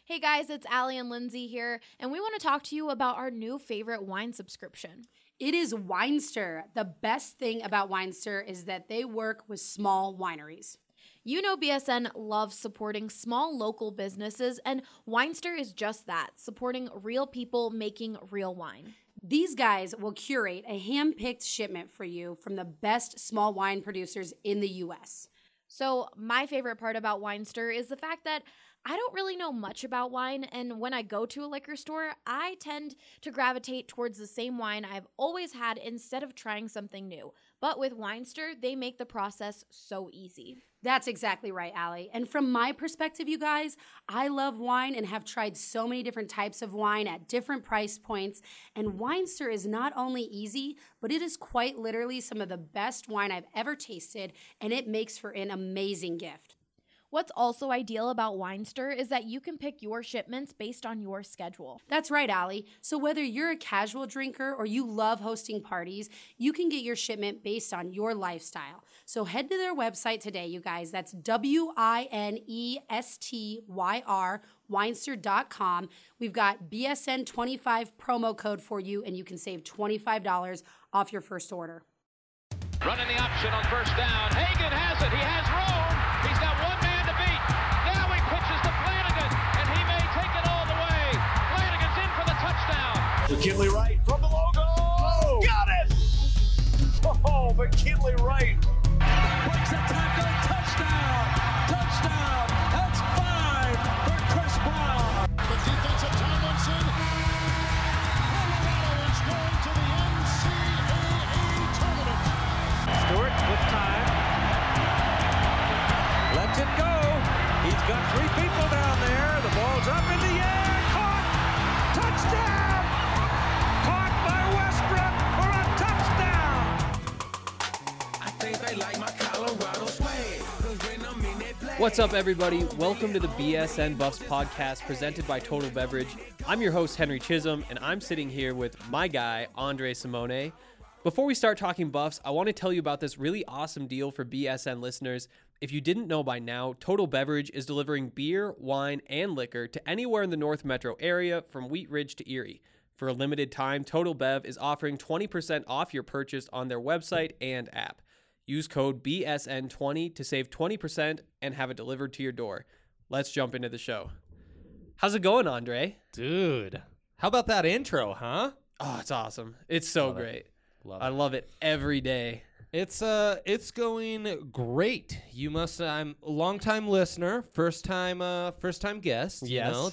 Hey guys, it's Allie and Lindsay here, and we want to talk to you about our new favorite wine subscription. It is Winester. The best thing about Winester is that they work with small wineries. You know BSN loves supporting small local businesses, and Winester is just that, supporting real people making real wine. These guys will curate a hand-picked shipment for you from the best small wine producers in the U.S. So my favorite part about Winester is the fact that I don't really know much about wine, and when I go to a liquor store, I tend to gravitate towards the same wine I've always had instead of trying something new. But with Winester, they make the process so easy. That's exactly right, Allie. And from my perspective, you guys, I love wine and have tried so many different types of wine at different price points. And Winester is not only easy, but it is quite literally some of the best wine I've ever tasted, and it makes for an amazing gift. What's also ideal about Winester is that you can pick your shipments based on your schedule. That's right, Allie. So whether you're a casual drinker or you love hosting parties, you can get your shipment based on your lifestyle. So head to their website today, you guys. That's WINESTYR, Winester.com. We've got BSN25 promo code for you, and you can save $25 off your first order. Running the option on first down. Hagan has it. He has Rome. He's got one man to beat. Now he pitches to Flanagan, and he may take it all the way. Flanagan's in for the touchdown. McKinley Wright from the logo. Oh, got it! Oh, McKinley Wright. Breaks a tackle. Touchdown! Touchdown! That's 5 for Chris Brown. The defensive Tomlinson. Colorado is going to the NCAA tournament. Stewart with time. Lets it go. He's got 3 people down there. The ball's up in the air. Caught. Touchdown. Caught by Westbrook for a touchdown. I think they like my Colorado swag. 'Cause when I'm in that play. What's up, everybody? Welcome to the BSN Buffs podcast presented by Total Beverage. I'm your host, Henry Chisholm, and I'm sitting here with my guy, Andre Simone. Before we start talking Buffs, I want to tell you about this really awesome deal for BSN listeners. If you didn't know by now, Total Beverage is delivering beer, wine, and liquor to anywhere in the North Metro area from Wheat Ridge to Erie. For a limited time, Total Bev is offering 20% off your purchase on their website and app. Use code BSN20 to save 20% and have it delivered to your door. Let's jump into the show. How's it going, Andre? Dude, how about that intro, huh? Oh, it's awesome. It's so Love it. great. Love I love it every day. It's going great. I'm a longtime listener, first time guest. Yes. You know,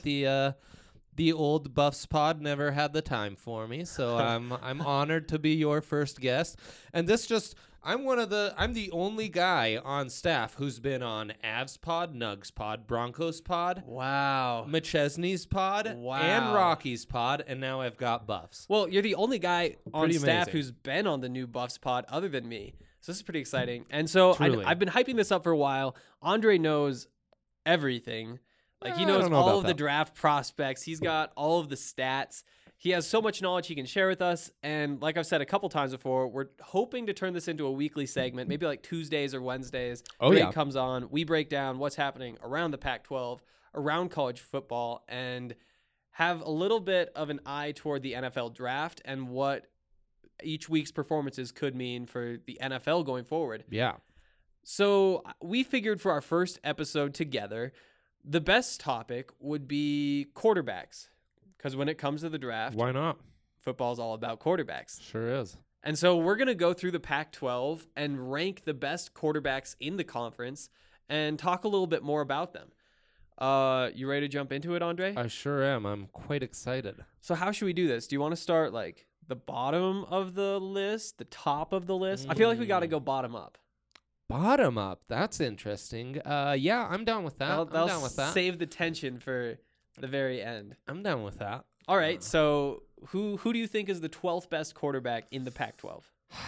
the old Buffs pod never had the time for me, so I'm honored to be your first guest. And I'm the only guy on staff who's been on Avs pod, Nugs pod, Broncos pod, Wow. McChesney's pod, Wow. and Rocky's pod, and now I've got Buffs. Well, you're the only guy on Pretty staff amazing. who's been on the new Buffs pod other than me. So this is pretty exciting. And so Truly. I've been hyping this up for a while. Andre knows everything. Like, he I knows don't know all about of the that. draft prospects. He's got all of the stats. He has so much knowledge he can share with us. And like I've said a couple times before, we're hoping to turn this into a weekly segment, maybe like Tuesdays or Wednesdays. Oh, Drake yeah. comes on. We break down what's happening around the Pac-12, around college football, and have a little bit of an eye toward the NFL draft and what each week's performances could mean for the NFL going forward. Yeah. So we figured for our first episode together, the best topic would be quarterbacks. Because when it comes to the draft, Why not? football's all about quarterbacks. Sure is. And so we're going to go through the Pac-12 and rank the best quarterbacks in the conference and talk a little bit more about them. You ready to jump into it, Andre? I sure am. I'm quite excited. So how should we do this? Do you want to start like the bottom of the list, the top of the list? I feel like we got to go bottom up. Bottom up. That's interesting. Yeah, I'm down with that. I'm down with that. Save the tension for the very end. I'm down with that. All right. So who do you think is the 12th best quarterback in the Pac-12?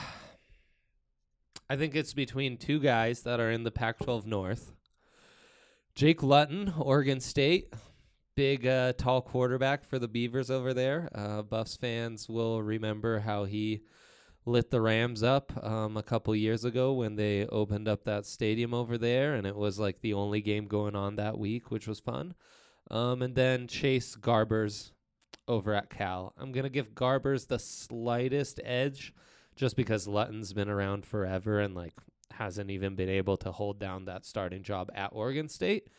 I think it's between two guys that are in the Pac-12 North. Jake Luton, Oregon State. Big, tall quarterback for the Beavers over there. Buffs fans will remember how he lit the Rams up a couple years ago when they opened up that stadium over there, and it was like the only game going on that week, which was fun. And then Chase Garbers over at Cal. I'm going to give Garbers the slightest edge just because Lutton's been around forever and like hasn't even been able to hold down that starting job at Oregon State.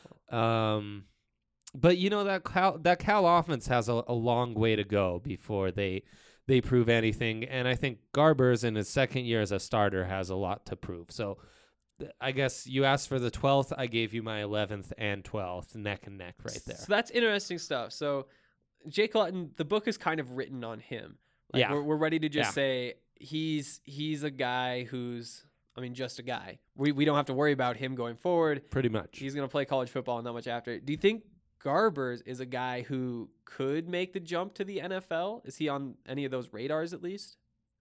But you know that Cal offense has a long way to go before they prove anything, and I think Garbers in his second year as a starter has a lot to prove. So I guess you asked for the 12th, I gave you my 11th and 12th, neck and neck right there. So that's interesting stuff. So Jake Luton, the book is kind of written on him. Like, yeah, we're ready to just say he's a guy who's, I mean, just a guy. We don't have to worry about him going forward. Pretty much. He's going to play college football and not much after. Do you think Garbers is a guy who could make the jump to the NFL? Is he on any of those radars at least?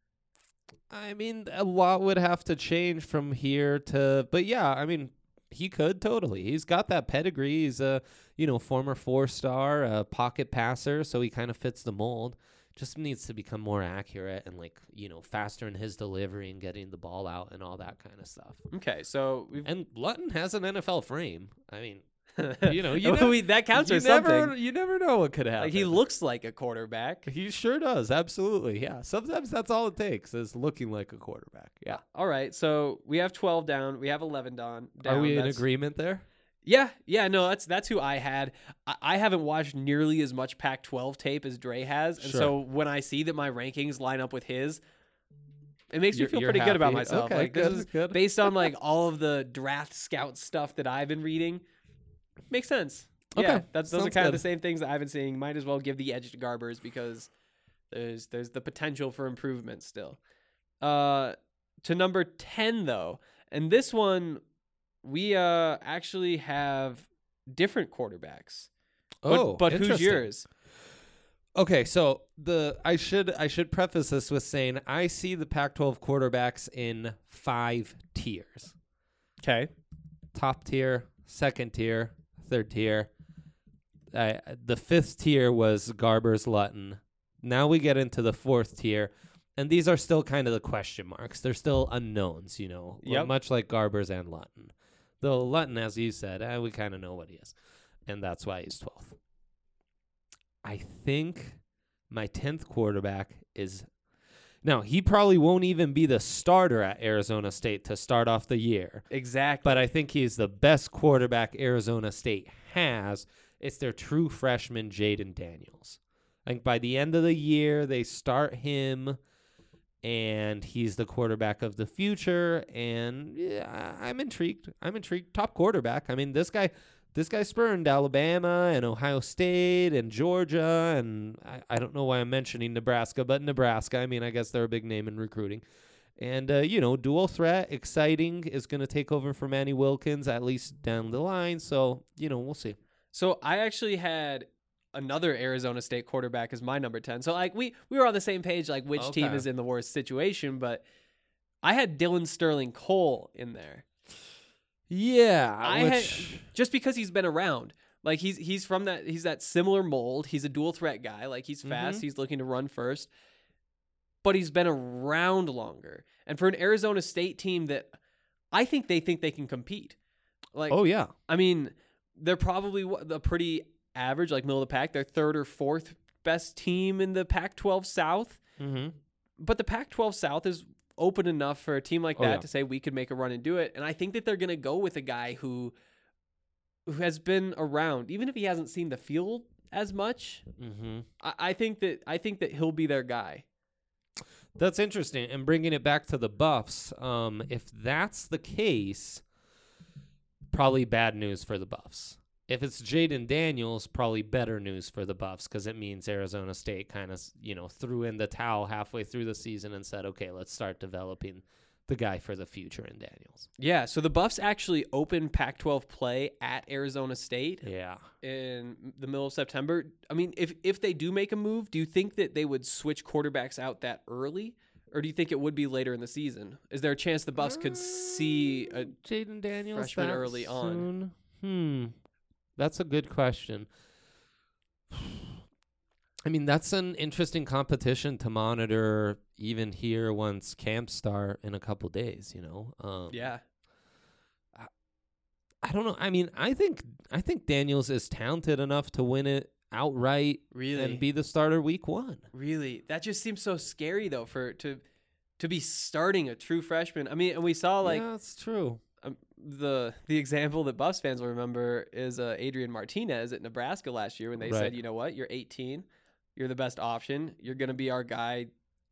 I mean, a lot would have to change from here to, but yeah, I mean, he could totally. He's got that pedigree. He's a, former 4-star, pocket passer, so he kind of fits the mold. Just needs to become more accurate and faster in his delivery and getting the ball out and all that kind of stuff. Okay, so and Luton has an NFL frame. I mean, that counts for something. You never know what could happen. Like, he looks like a quarterback. He sure does. Absolutely. Yeah. Sometimes that's all it takes is looking like a quarterback. Yeah. All right. So we have 12 down. We have 11 down. Are we in agreement there? Yeah. Yeah. No, that's who I had. I haven't watched nearly as much Pac-12 tape as Dre has. And so when I see that my rankings line up with his, it makes me feel pretty good about myself. Okay, like, good, this is good. Based on like all of the draft scout stuff that I've been reading. Makes sense. Okay. Yeah, those are kind good. of the same things that I've been seeing. Might as well give the edge to Garbers because there's the potential for improvement still. To number 10 though, and this one we actually have different quarterbacks. But who's yours? Okay, so I should preface this with saying I see the Pac-12 quarterbacks in 5 tiers. Okay. Top tier, second tier, third tier. The 5th tier was Garbers Luton. Now we get into the 4th tier, and these are still kind of the question marks. They're still unknowns, much like Garbers and Luton. Though Luton, as you said, we kind of know what he is, and that's why he's 12th. I think my 10th quarterback is... Now, he probably won't even be the starter at Arizona State to start off the year. Exactly. But I think he's the best quarterback Arizona State has. It's their true freshman, Jaden Daniels. I think by the end of the year, they start him, and he's the quarterback of the future. And yeah, I'm intrigued. Top quarterback. I mean, this guy spurned Alabama and Ohio State and Georgia, and I don't know why I'm mentioning Nebraska, but Nebraska, I mean, I guess they're a big name in recruiting. And, dual threat, exciting, is going to take over for Manny Wilkins, at least down the line. So, we'll see. So I actually had another Arizona State quarterback as my number 10. So, like, we were on the same page, like, which team is in the worst situation, but I had Dylan Sterling Cole in there. Yeah, just because he's been around. Like he's that similar mold. He's a dual threat guy. Like he's fast. He's looking to run first. But he's been around longer. And for an Arizona State team that I think they can compete. Like, oh yeah. I mean, they're probably a pretty average, like middle of the pack. They're 3rd or 4th best team in the Pac-12 South. Mm-hmm. But the Pac-12 South is open enough for a team like that to say we could make a run and do it. And I think that they're going to go with a guy who has been around, even if he hasn't seen the field as much. Mm-hmm. I think that he'll be their guy. That's interesting. And bringing it back to the Buffs, if that's the case, probably bad news for the Buffs. If it's Jaden Daniels, probably better news for the Buffs because it means Arizona State kind of, threw in the towel halfway through the season and said, okay, let's start developing the guy for the future in Daniels. Yeah, so the Buffs actually opened Pac-12 play at Arizona State in the middle of September. I mean, if they do make a move, do you think that they would switch quarterbacks out that early? Or do you think it would be later in the season? Is there a chance the Buffs could see a Jaden Daniels freshman early on? That's a good question. I mean, that's an interesting competition to monitor even here once camps start in a couple days, Yeah. I don't know. I mean, I think Daniels is talented enough to win it outright and be the starter week 1. Really? That just seems so scary though to be starting a true freshman. I mean, and we saw like yeah, that's true. The example that Buffs fans will remember is Adrian Martinez at Nebraska last year when they said, you know what, you're 18, you're the best option, you're going to be our guy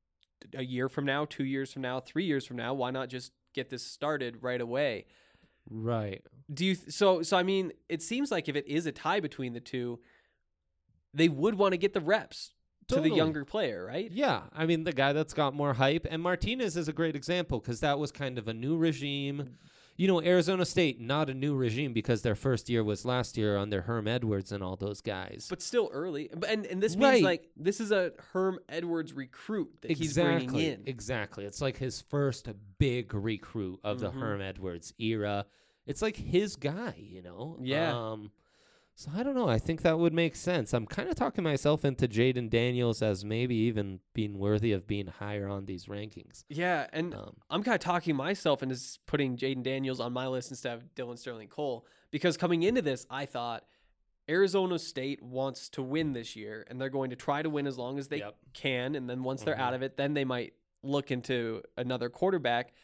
a year from now, 2 years from now, 3 years from now. Why not just get this started right away? Right. Do you so I mean, it seems like if it is a tie between the two, they would want to get the reps to the younger player, right? Yeah. I mean, the guy that's got more hype. And Martinez is a great example because that was kind of a new regime. You know, Arizona State, not a new regime because their first year was last year under Herm Edwards and all those guys. But still early. And this means, like, this is a Herm Edwards recruit that he's bringing in. Exactly. It's like his first big recruit of the Herm Edwards era. It's like his guy, you know? Yeah. So I don't know. I think that would make sense. I'm kind of talking myself into Jaden Daniels as maybe even being worthy of being higher on these rankings. Yeah, and I'm kind of talking myself into putting Jaden Daniels on my list instead of Dylan Sterling Cole because coming into this, I thought Arizona State wants to win this year, and they're going to try to win as long as they can, and then once they're out of it, then they might look into another quarterback.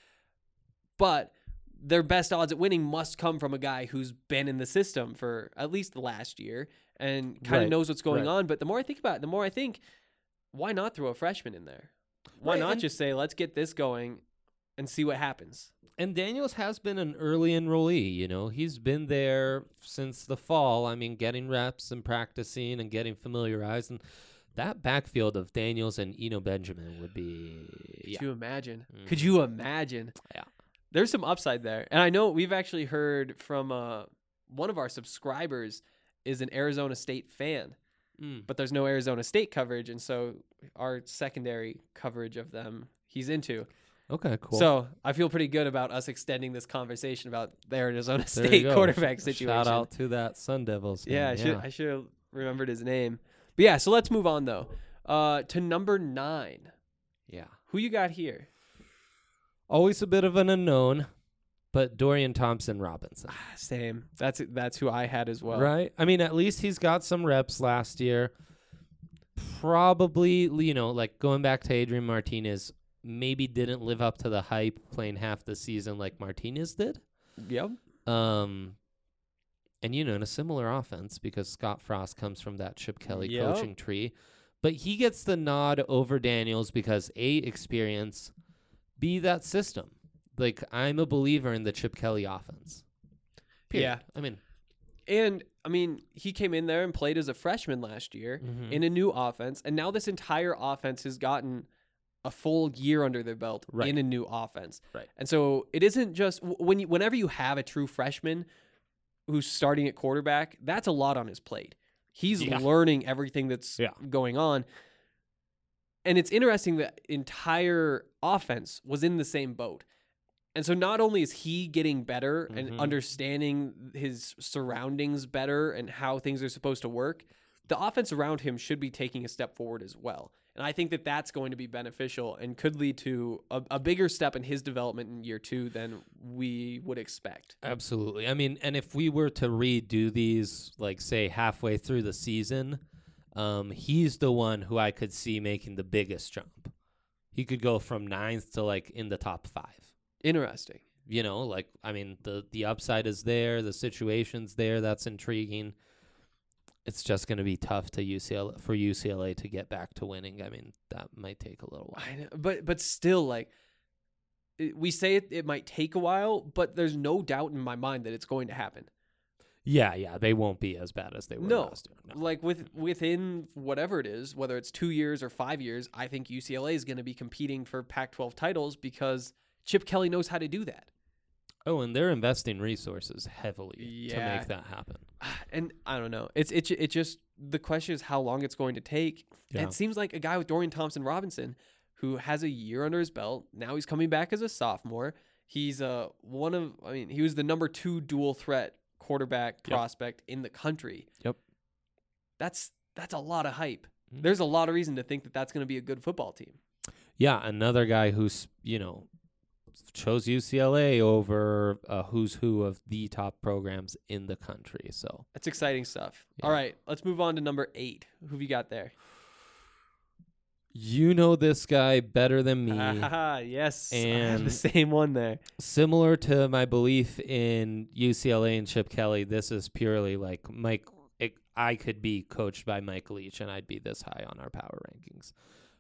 But their best odds at winning must come from a guy who's been in the system for at least the last year and kind of knows what's going on. But the more I think about it, the more I think, why not throw a freshman in there? Why not just say, let's get this going and see what happens? And Daniels has been an early enrollee, you know. He's been there since the fall. I mean, getting reps and practicing and getting familiarized. And that backfield of Daniels and Eno Benjamin would be... Could you imagine? Could you imagine? Yeah. There's some upside there. And I know we've actually heard from one of our subscribers is an Arizona State fan, but there's no Arizona State coverage. And so our secondary coverage of them, he's into. Okay, cool. So I feel pretty good about us extending this conversation about the Arizona State quarterback situation. Shout out to that Sun Devils fan. Yeah, I should have remembered his name. But yeah, so let's move on though. To number 9. Yeah. Who you got here? Always a bit of an unknown, but Dorian Thompson-Robinson. Same. That's who I had as well. Right? I mean, at least he's got some reps last year. Probably, you know, like going back to Adrian Martinez, maybe didn't live up to the hype playing half the season like Martinez did. Yep. And, you know, in a similar offense because Scott Frost comes from that Chip Kelly coaching tree. But he gets the nod over Daniels because, A, experience, B, that system. Like, I'm a believer in the Chip Kelly offense. Period. Yeah. I mean, he came in there and played as a freshman last year in a new offense, and now this entire offense has gotten a full year under their belt in a new offense. Right. And so it isn't just whenever you have a true freshman who's starting at quarterback, that's a lot on his plate. He's learning everything that's going on. And it's interesting that entire offense was in the same boat. And so not only is he getting better and understanding his surroundings better and how things are supposed to work, the offense around him should be taking a step forward as well. And I think that that's going to be beneficial and could lead to a bigger step in his development in year 2 than we would expect. Absolutely. I mean, and if we were to redo these, like, say, halfway through the season, he's the one who I could see making the biggest jump. He could go from 9th to, like, in the top 5. Interesting. You know, like, I mean, the upside is there. The situation's there. That's intriguing. It's just going to be tough for UCLA to get back to winning. I mean, that might take a little while. I know, but still, like, we say it might take a while, but there's no doubt in my mind that it's going to happen. Yeah, they won't be as bad as they were last year. No. Like within whatever it is, whether it's 2 years or 5 years, I think UCLA is going to be competing for Pac-12 titles because Chip Kelly knows how to do that. Oh, and they're investing resources heavily to make that happen. And I don't know. It just the question is how long it's going to take. Yeah. And it seems like a guy with Dorian Thompson-Robinson who has a year under his belt. Now he's coming back as a sophomore. He's he was the number 2 dual threat quarterback prospect in the country. Yep. That's a lot of hype. There's a lot of reason to think that that's going to be a good football team. Yeah, another guy who's, you know, chose UCLA over a who's who of the top programs in the country. So That's exciting stuff. Yeah. All right, let's move on to number 8. Who have you got there? you know this guy better than me. Yes, I have the And- same one there. Similar to my belief in UCLA and Chip Kelly, this is purely like I could be coached by Mike Leach, and I'd be this high on our power rankings.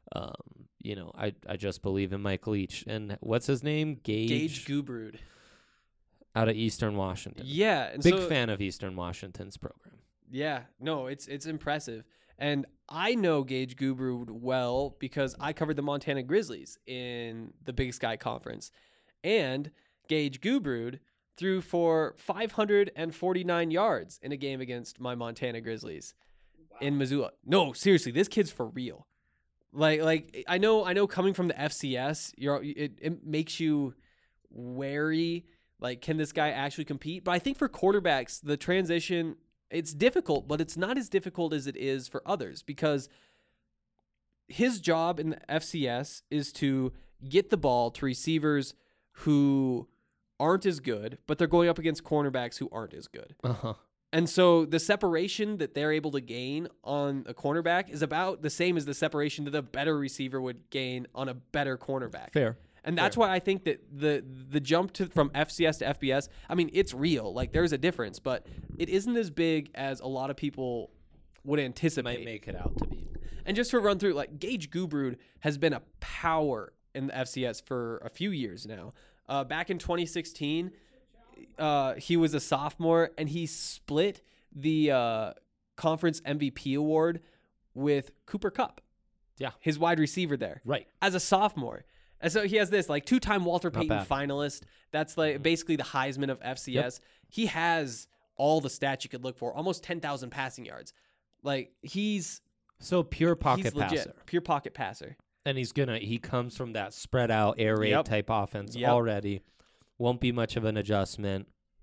I just believe in Mike Leach. And what's his name? Gage Gubrud. Out of Eastern Washington. Yeah, and Big so, fan of Eastern Washington's program. Yeah, no, it's impressive. And I know Gage Gubrud well because I covered the Montana Grizzlies in the Big Sky Conference. And Gage Gubrud threw for 549 yards in a game against my Montana Grizzlies in Missoula. No, seriously, this kid's for real. Like I know coming from the FCS, it makes you wary. Like, can this guy actually compete? But I think for quarterbacks, the transition, it's difficult, but it's not as difficult as it is for others because his job in the FCS is to get the ball to receivers who aren't as good, but they're going up against cornerbacks who aren't as good. Uh-huh. And so the separation that they're able to gain on a cornerback is about the same as the separation that a better receiver would gain on a better cornerback. Fair. And that's why I think that the jump from FCS to FBS, I mean, it's real. Like, there's a difference, but it isn't as big as a lot of people would anticipate. Might make it out to be. And just to run through, like, Gage Gubrud has been a power in the FCS for a few years now. Back in 2016, he was a sophomore, and he split the conference MVP award with Cooper Kupp. Yeah. His wide receiver there. Right. As a sophomore. And so he has this, like, 2-time Walter Payton bad. finalist. That's, like, basically the Heisman of FCS. Yep. He has all the stats you could look for, almost 10,000 passing yards. Like, he's So pure pocket he's legit, passer. pure pocket passer. And he comes from that spread out air raid Yep. type offense Yep. already. Won't be much of an adjustment.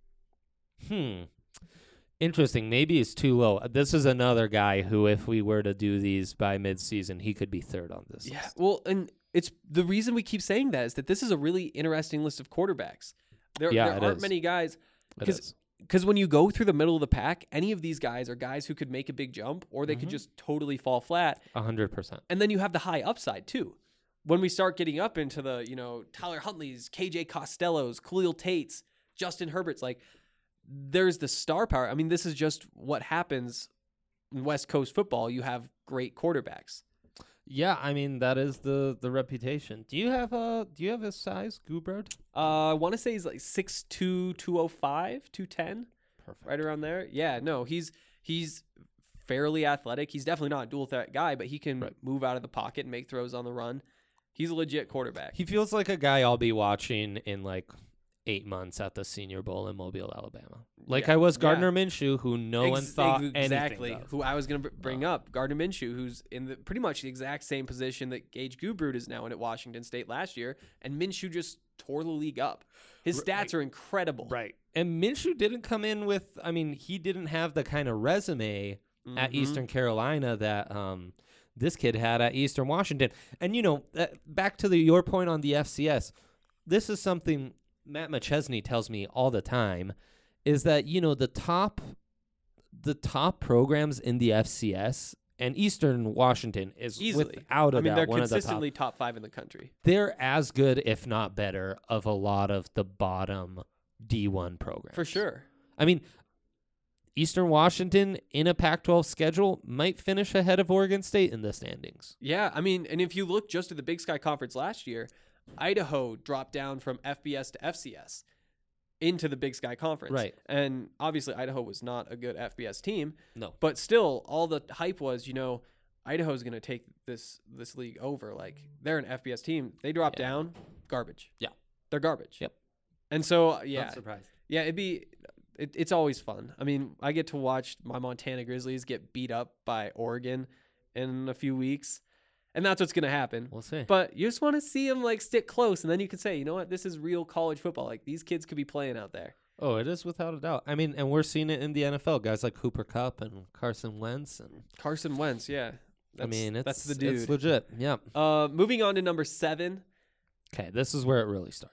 Interesting. Maybe it's too low. This is another guy who, if we were to do these by midseason, he could be third on this Yeah, list. well, and it's the reason we keep saying that is that this is a really interesting list of quarterbacks. There it aren't is. many guys It is. because when you go through the middle of the pack, any of these guys are guys who could make a big jump or they could just totally fall flat. 100%. And then you have the high upside too. When we start getting up into the, Tyler Huntley's, KJ Costello's, Khalil Tate's, Justin Herbert's, like, there's the star power. I mean, this is just what happens in West Coast football. You have great quarterbacks. Yeah, I mean that is the reputation. Do you have his size, Gubrud? I want to say he's like 6'2", 205, 210, Perfect. right around there. Yeah, no, he's fairly athletic. He's definitely not a dual threat guy, but he can move out of the pocket and make throws on the run. He's a legit quarterback. He feels like a guy I'll be watching in like 8 months at the Senior Bowl in Mobile, Alabama. Like Yeah. I was Gardner Yeah. Minshew, who no one thought exactly anything of. who I was going to bring up. Gardner Minshew, who's in the pretty much the exact same position that Gage Gubrud is now in at Washington State last year, and Minshew just tore the league up. His stats are incredible. Right. And Minshew didn't come in with, he didn't have the kind of resume at Eastern Carolina that this kid had at Eastern Washington. And, back to your point on the FCS, this is something Matt McChesney tells me all the time, is that, the top programs in the FCS and Eastern Washington is Easily. without a doubt they're one of the top. consistently top 5 in the country. They're as good, if not better, of a lot of the bottom D1 programs. For sure. I mean, Eastern Washington in a Pac-12 schedule might finish ahead of Oregon State in the standings. Yeah, I mean, and if you look just at the Big Sky Conference last year, Idaho dropped down from FBS to FCS into the Big Sky Conference. Right. And obviously Idaho was not a good FBS team. No. But still, all the hype was, Idaho's going to take this league over. Like, they're an FBS team. They drop down, garbage. Yeah. They're garbage. Yep. And so, Not surprised. Yeah, it's always fun. I mean, I get to watch my Montana Grizzlies get beat up by Oregon in a few weeks, and that's what's going to happen. We'll see. But you just want to see them, like, stick close, and then you can say, you know what, this is real college football. Like, these kids could be playing out there. Oh, it is without a doubt. I mean, and we're seeing it in the NFL. Guys like Cooper Kupp and Carson Wentz. And Carson Wentz, yeah. That's the dude. It's legit. Yeah. Moving on to number 7. Okay, this is where it really starts.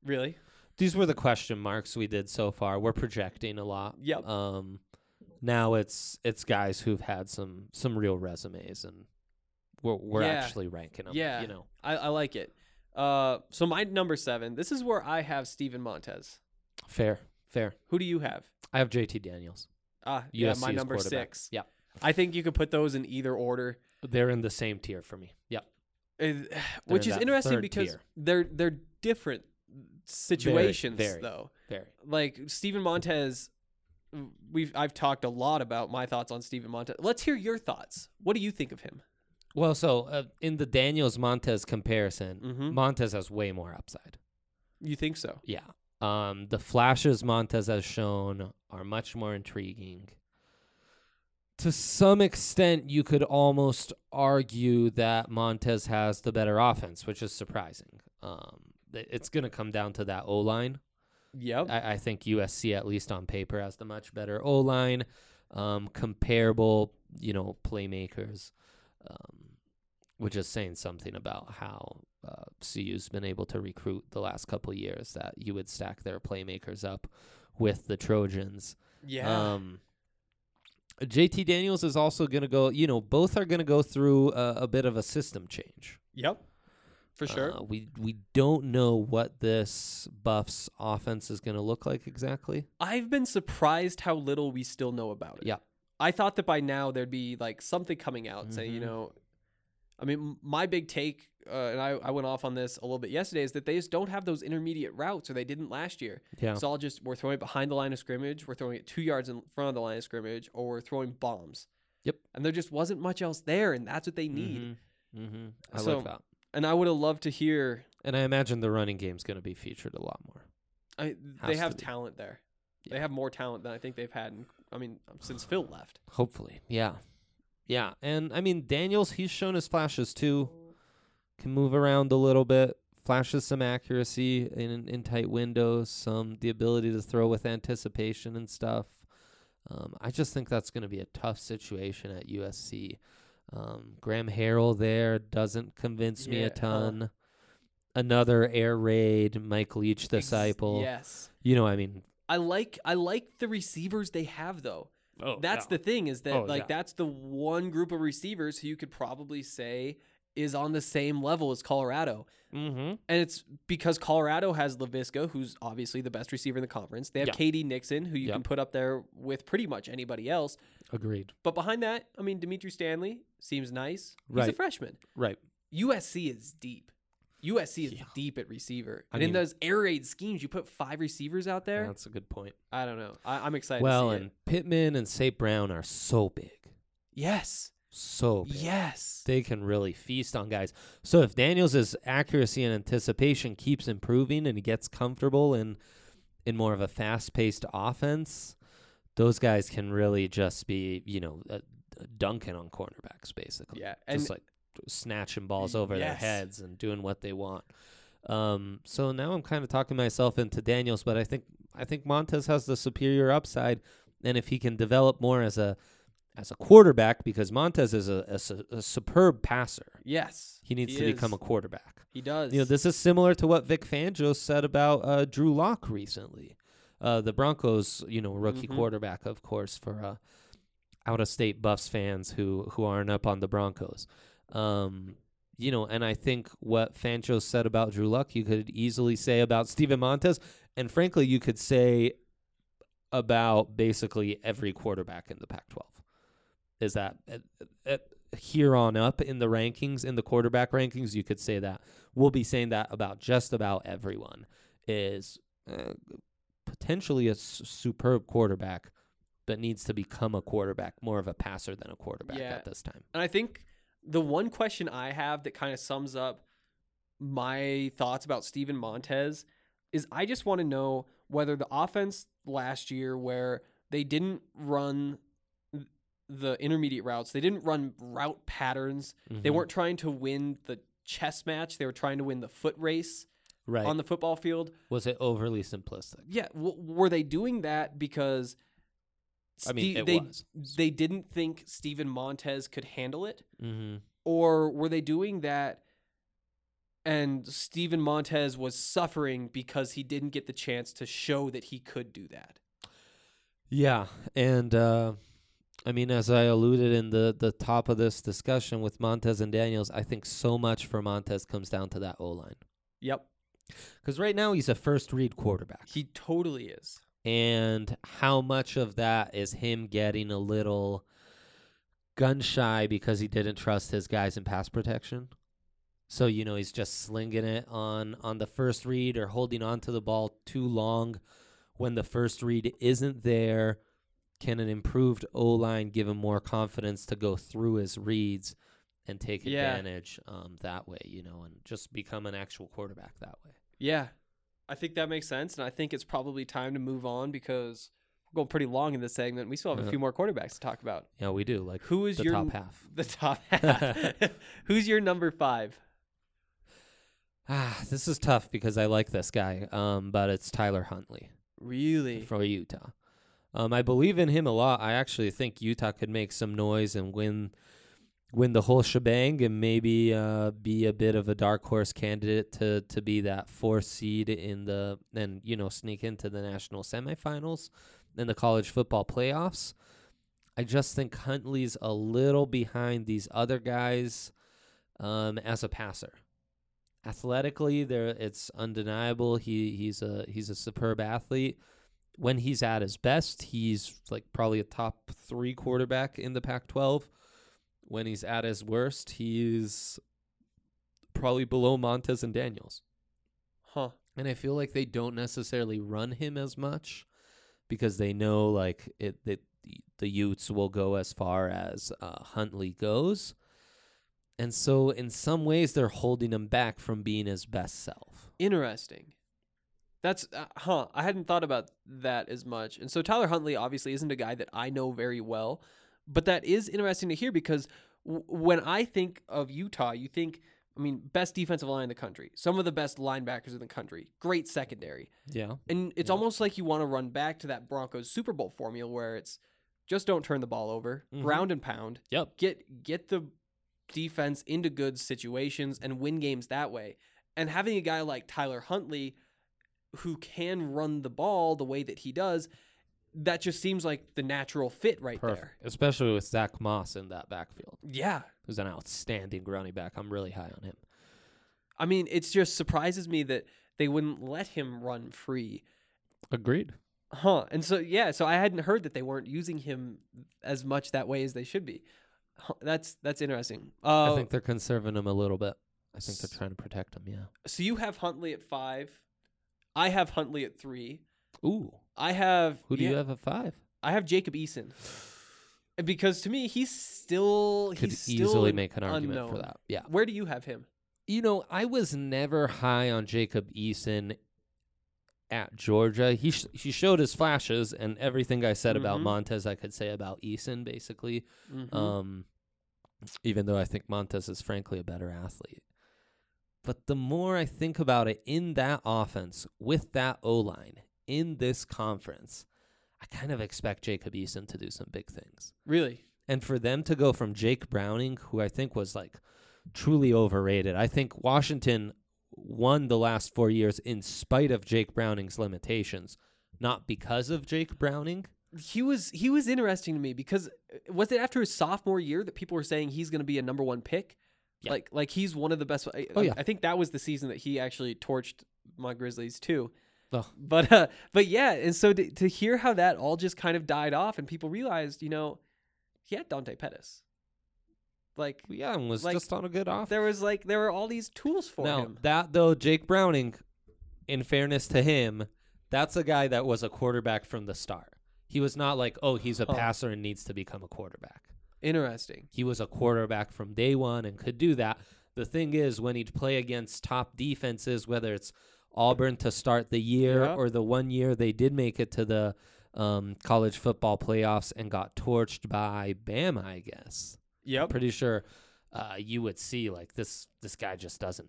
Really? These were the question marks we did so far. We're projecting a lot. Yep. Now it's guys who've had some real resumes, and we're actually ranking them. Yeah. You know. I like it. So my number 7, this is where I have Steven Montez. Fair. Who do you have? I have JT Daniels. Yeah, my USC's number quarterback. 6. Yeah. I think you could put those in either order. They're in the same tier for me. Yep. Which is that interesting third because tier. they're different situations very. though. Very. Like Steven Montez, I've talked a lot about my thoughts on Steven Montez. Let's hear your thoughts. What do you think of him? Well, so in the Daniels Montez comparison, Mhm. Montez has way more upside. You think so? Yeah. The flashes Montez has shown are much more intriguing. To some extent, you could almost argue that Montez has the better offense, which is surprising. It's going to come down to that O-line. Yep. I think USC, at least on paper, has the much better O-line, comparable, playmakers, which is saying something about how CU's been able to recruit the last couple of years, that you would stack their playmakers up with the Trojans. Yeah. JT Daniels is also going to go, both are going to go through a bit of a system change. Yep. For sure. We don't know what this Buffs offense is going to look like exactly. I've been surprised how little we still know about it. Yeah. I thought that by now there'd be like something coming out saying, my big take, and I went off on this a little bit yesterday, is that they just don't have those intermediate routes, or they didn't last year. Yeah. So we're throwing it behind the line of scrimmage, we're throwing it 2 yards in front of the line of scrimmage, or we're throwing bombs. Yep. And there just wasn't much else there, and that's what they need. I love that. And I would have loved to hear. And I imagine the running game's going to be featured a lot more. They have talent there. Yeah. They have more talent than I think they've had, since Phil left. Hopefully, yeah. Yeah, and Daniels, he's shown his flashes too. Can move around a little bit, flashes some accuracy in tight windows, the ability to throw with anticipation and stuff. I just think that's going to be a tough situation at USC. Graham Harrell there doesn't convince me a ton. Another air raid, Mike Leach disciple. Yes. I like the receivers they have though. Oh, that's the thing, is that that's the one group of receivers who you could probably say is on the same level as Colorado. Mm-hmm. And it's because Colorado has Laviska, who's obviously the best receiver in the conference. They have KD Nixon, who you can put up there with pretty much anybody else. Agreed. But behind that, Dimitri Stanley seems nice. He's a freshman. Right. USC is deep. USC is deep at receiver. And in those air raid schemes, you put 5 receivers out there. That's a good point. I don't know. I'm excited well, to see and Pittman and St. Brown are so big. Yes. So big. Yes. They can really feast on guys. So if Daniels' accuracy and anticipation keeps improving and he gets comfortable in more of a fast-paced offense, those guys can really just be, dunking on cornerbacks, basically. Yeah. Just like snatching balls over their heads and doing what they want. So now I'm kind of talking myself into Daniels, but I think Montez has the superior upside, and if he can develop more as a quarterback, because Montez is a superb passer. Yes. He needs to become a quarterback. He does. This is similar to what Vic Fangio said about Drew Lock recently. The Broncos, rookie quarterback, of course, for out-of-state Buffs fans who aren't up on the Broncos. And I think what Fangio said about Drew Luck, you could easily say about Steven Montez, and frankly, you could say about basically every quarterback in the Pac-12. Is that here on up in the rankings, in the quarterback rankings, you could say that. We'll be saying that about just about everyone is potentially a superb quarterback, but needs to become a quarterback, more of a passer than a quarterback at this time. And I think the one question I have that kind of sums up my thoughts about Steven Montez is I just want to know whether the offense last year, where they didn't run the intermediate routes, they didn't run route patterns, they weren't trying to win the chess match, they were trying to win the foot race on the football field. Was it overly simplistic? Yeah. Were they doing that because they didn't think Steven Montez could handle it? Mm-hmm. Or were they doing that And Steven Montez was suffering because he didn't get the chance to show that he could do that. Yeah, and I mean, as I alluded in the top of this discussion with Montez and Daniels, I think so much for Montez comes down to that O-line. Yep. Because right now he's a first-read quarterback. He totally is. And how much of that is him getting a little gun-shy because he didn't trust his guys in pass protection? So, he's just slinging it on the first read or holding on to the ball too long when the first read isn't there. Can an improved O-line give him more confidence to go through his reads and take advantage that way, and just become an actual quarterback that way? Yeah, I think that makes sense, and I think it's probably time to move on because we're going pretty long in this segment. We still have a few more quarterbacks to talk about. Yeah, we do. Like, who is the your top half? The top half. Who's your number 5? This is tough because I like this guy, but it's Tyler Huntley. Really? For Utah. I believe in him a lot. I actually think Utah could make some noise and win the whole shebang and maybe be a bit of a dark horse candidate to be that 4th seed and sneak into the national semifinals in the college football playoffs. I just think Huntley's a little behind these other guys as a passer. Athletically, it's undeniable. He's a superb athlete. When he's at his best, he's like probably a top 3 quarterback in the Pac-12. When he's at his worst, he's probably below Montez and Daniels. Huh. And I feel like they don't necessarily run him as much because they know that the Utes will go as far as Huntley goes. And so in some ways, they're holding him back from being his best self. Interesting. That's, I hadn't thought about that as much. And so Tyler Huntley obviously isn't a guy that I know very well, but that is interesting to hear because when I think of Utah, you think, best defensive line in the country, some of the best linebackers in the country, great secondary. Yeah. And it's almost like you want to run back to that Broncos Super Bowl formula where it's just don't turn the ball over, ground and pound. Yep. Get the defense into good situations and win games that way. And having a guy like Tyler Huntley who can run the ball the way that he does, that just seems like the natural fit right there. Especially with Zach Moss in that backfield. Yeah. Who's an outstanding running back. I'm really high on him. It just surprises me that they wouldn't let him run free. Agreed. And so, so I hadn't heard that they weren't using him as much that way as they should be. That's interesting. I think they're conserving him a little bit. I think they're trying to protect him, yeah. So you have Huntley at 5. I have Huntley at 3. Ooh. I have... Who do you have at 5? I have Jacob Eason. Because to me, he's still... Could easily make an argument for that. Yeah. Where do you have him? I was never high on Jacob Eason at Georgia. He showed his flashes, and everything I said about Montez I could say about Eason, basically. Even though I think Montez is frankly a better athlete. But the more I think about it, in that offense, with that O-line, in this conference, I kind of expect Jacob Eason to do some big things. Really? And for them to go from Jake Browning, who I think was truly overrated. I think Washington won the last 4 years in spite of Jake Browning's limitations, not because of Jake Browning. He was interesting to me because was it after his sophomore year that people were saying he's going to be a number 1 pick? Yeah. Like he's one of the best. I think that was the season that he actually torched my Grizzlies too. Oh. But yeah, and so to hear how that all just kind of died off and people realized, he had Dante Pettis. And was just on a good off. There were all these tools for him. That though, Jake Browning, in fairness to him, that's a guy that was a quarterback from the start. He was not he's a passer and needs to become a quarterback. Interesting. He was a quarterback from day one and could do that. The thing is, when he'd play against top defenses, whether it's Auburn to start the year or the 1 year they did make it to the college football playoffs and got torched by Bama, I guess. Yep. I'm pretty sure you would see this guy just doesn't,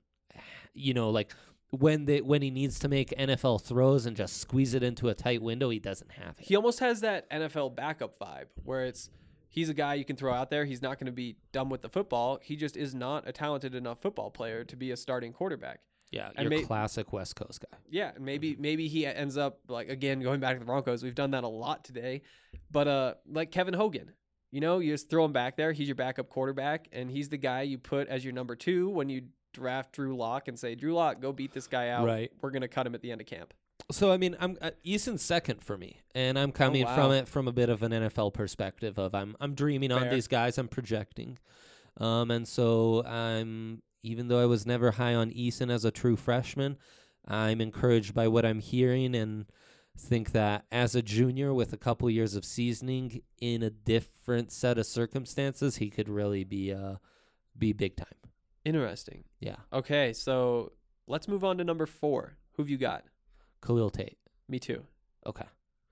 when he needs to make NFL throws and just squeeze it into a tight window, he doesn't have it. He almost has that NFL backup vibe where it's, He's a guy you can throw out there. He's not going to be dumb with the football. He just is not a talented enough football player to be a starting quarterback. Yeah, And your classic West Coast guy. Yeah, and maybe he ends up, like, again, going back to the Broncos. We've done that a lot today. But like Kevin Hogan, you know, you just throw him back there. He's your backup quarterback, and he's the guy you put as your number 2 when you draft Drew Lock and say, Drew Lock, go beat this guy out. Right. We're going to cut him at the end of camp. So, I mean, I'm Eason's second for me, and I'm coming wow. from it from a bit of an NFL perspective of I'm dreaming on Fair. these guys, I'm projecting. And so even though I was never high on Eason as a true freshman, I'm encouraged by what I'm hearing and think that as a junior with a couple years of seasoning in a different set of circumstances, he could really be big time. Interesting. Yeah. Okay, so let's move on to number 4. Who've you got? Khalil Tate. Me too. Okay.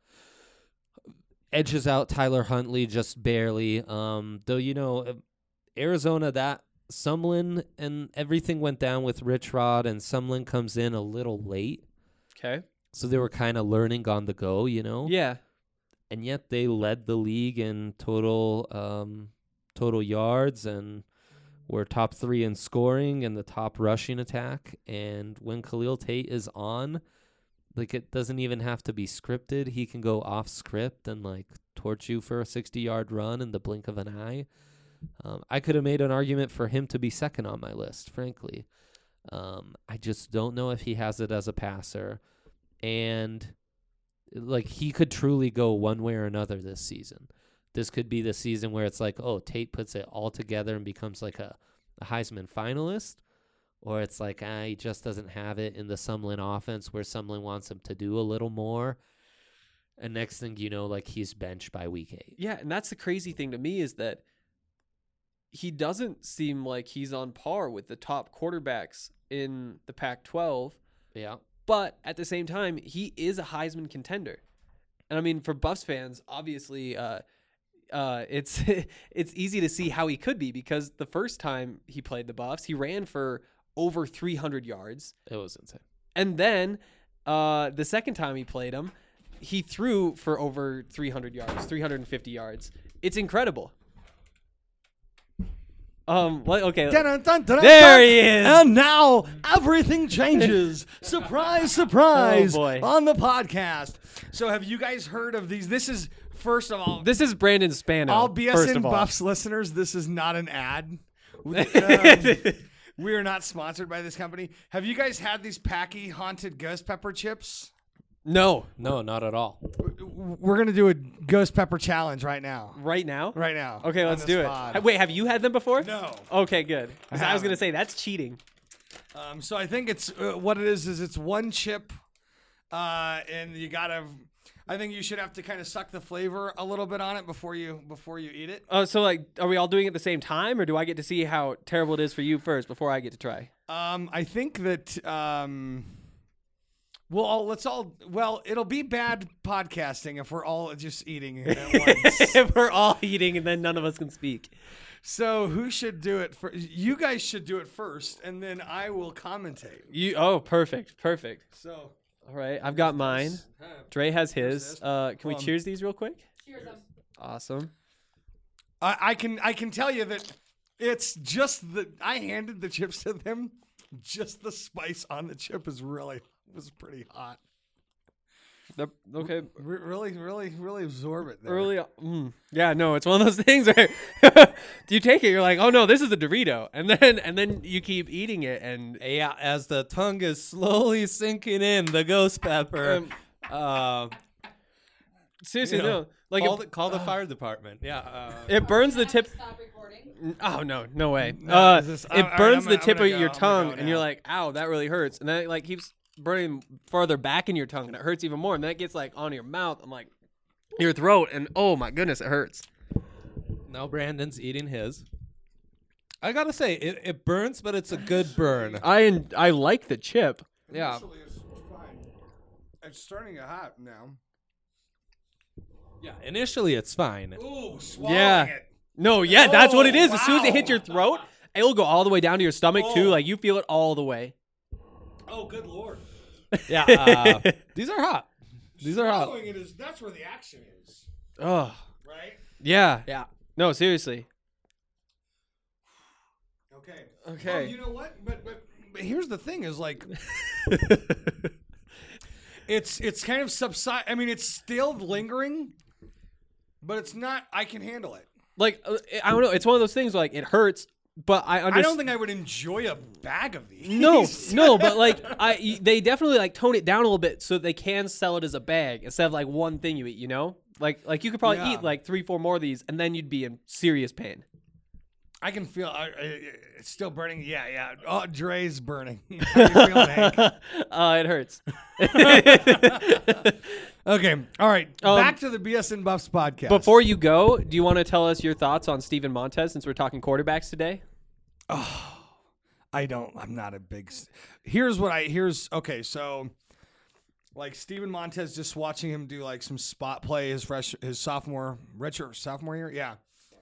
Edges out Tyler Huntley just barely. Though, you know, Arizona, that Sumlin and everything went down with Rich Rod, and Sumlin comes in a little late. Okay. So they were kind of learning on the go, you know? Yeah. And yet they led the league in total yards and were top 3 in scoring and the top rushing attack. And when Khalil Tate is on, like, it doesn't even have to be scripted. He can go off script and, like, torch you for a 60-yard run in the blink of an eye. I could have made an argument for him to be second on my list, frankly. I just don't know if he has it as a passer. And, like, he could truly go one way or another this season. This could be the season where it's like, oh, Tate puts it all together and becomes like a Heisman finalist. Or it's like, he just doesn't have it in the Sumlin offense where Sumlin wants him to do a little more. And next thing you know, like, he's benched by week 8. Yeah, and that's the crazy thing to me is that he doesn't seem like he's on par with the top quarterbacks in the Pac-12. Yeah. But at the same time, he is a Heisman contender. And I mean, for Buffs fans, obviously, it's it's easy to see how he could be because the first time he played the Buffs, he ran for over 300 yards. It was insane. And then the second time he played him, he threw for over 300 yards, 350 yards. It's incredible. Okay. Dun, dun, dun, dun, There he is. And now everything changes. Surprise, surprise. Oh, boy. On the podcast. So have you guys heard of these? This is, first of all, This is Brandon Spano. all first BSN of all. Buffs listeners, this is not an ad. We are not sponsored by this company. Have you guys had these Packy Haunted Ghost Pepper chips? No. No, not at all. We're going to do a Ghost Pepper challenge right now. Right now? Right now. Okay, on let's this do pod. it. Wait, have you had them before? No. Okay, good. 'Cause I was going to haven't. say, that's cheating. So I think it's what it is it's one chip, and you gotta. I think you should have to kind of suck the flavor a little bit on it before you eat it. Oh, so, like, are we all doing it at the same time, or do I get to see how terrible it is for you first before I get to try? I think that it'll be bad podcasting if we're all just eating at once. If we're all eating and then none of us can speak. So who should do it first? You guys should do it first, and then I will commentate. Perfect. So. All right, I've got mine. Dre has his. Can we on. cheers these real quick? Cheers them. Awesome. I can tell you that it's just I handed the chips to them. Just the spice on the chip was pretty hot. Okay. Really absorb it there. Early. Yeah, no, it's one of those things where you take it, you're like, oh no, this is a Dorito, and then you keep eating it, and Yeah, as the tongue is slowly sinking in, the ghost pepper. seriously, You know, no, like call the fire department. Yeah. it burns the tip. Stop recording. Oh no way. No, this is- it all burns right, the tip I'm of gonna your go, I'm gonna tongue, go and you're now. like, ow, that really hurts, and then it like keeps burning farther back in your tongue, and it hurts even more, and then it gets like on your mouth, and like your throat, and oh my goodness, it hurts. Now Brandon's eating his. I gotta say, it burns, but it's a good burn. I like the chip. Yeah. Actually, it's fine. It's starting to hot now. Yeah. Initially, it's fine. Ooh, swallowing Yeah. it. No, yeah, that's what it is. As soon as it wow. hits your throat, it'll go all the way down to your stomach too. Oh. Like you feel it all the way. Oh, good lord. Yeah. These are hot. These are hot. Swallowing it is, that's where the action is, Oh, right? yeah. Yeah. No, seriously. Okay. Okay. Well, you know what? But here's the thing: is like, it's kind of subside. I mean, it's still lingering, but it's not. I can handle it. Like, I don't know. It's one of those things. Like, it hurts, but I understand. I don't think I would enjoy a bag of these. No, but like, they definitely like tone it down a little bit so they can sell it as a bag instead of like one thing you eat. You know, like you could probably eat like 3-4 more of these, and then you'd be in serious pain. I can feel it's still burning. Yeah. Oh, Dre's burning. How you feeling, Hank? It hurts. Okay. All right. Back to the BS and Buffs podcast. Before you go, do you want to tell us your thoughts on Steven Montez since we're talking quarterbacks today? Oh, I'm not a big. Okay. So, like Steven Montez, just watching him do like some spot play his sophomore year. Yeah.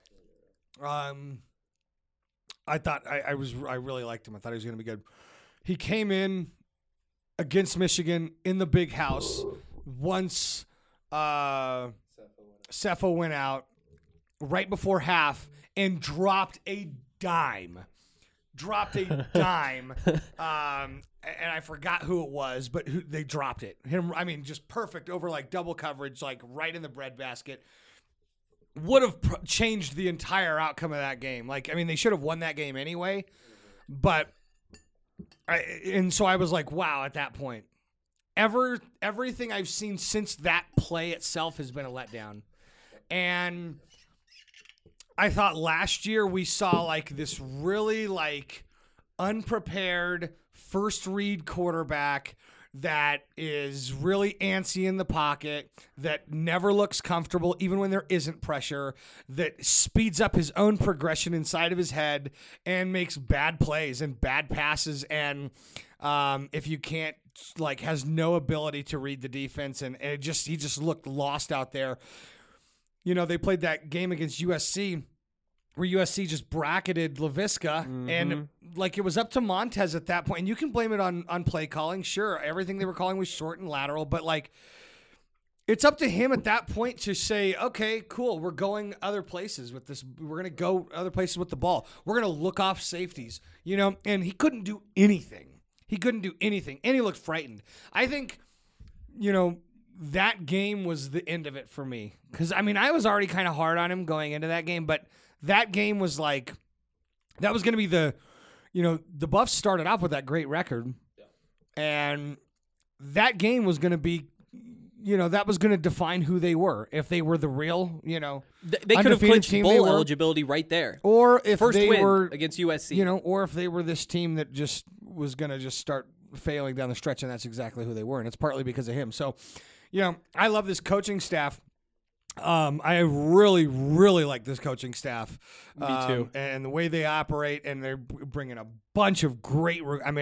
I thought I really liked him. I thought he was going to be good. He came in against Michigan in the big house once Cepho went out right before half and dropped a dime. And I forgot who it was, but they dropped it. Just perfect over like double coverage, like right in the breadbasket. Would have changed the entire outcome of that game. They should have won that game anyway. But so I was like, wow, at that point. Everything I've seen since that play itself has been a letdown. And I thought last year we saw like this really like unprepared first read quarterback that is really antsy in the pocket, that never looks comfortable even when there isn't pressure, that speeds up his own progression inside of his head and makes bad plays and bad passes. And if you can't, like, has no ability to read the defense, and he just looked lost out there. You know, they played that game against USC where USC just bracketed Laviska, and like it was up to Montez at that point. And you can blame it on play calling. Sure, everything they were calling was short and lateral, but like it's up to him at that point to say, okay, cool, we're going other places with this. We're going to go other places with the ball. We're going to look off safeties, you know, and he couldn't do anything. And he looked frightened. I think, you know, that game was the end of it for me. Because, I mean, I was already kind of hard on him going into that game, but that game was like, that was going to be the Buffs started off with that great record. Yeah. And that game was going to be, that was going to define who they were. If they were the real, they could have clinched bowl eligibility right there. Or if first they win were against USC, or if they were this team that just was going to just start failing down the stretch, and that's exactly who they were. And it's partly because of him. So, I love this coaching staff. I really, really like this coaching staff. Me too. And the way they operate, and they're bringing a bunch of great.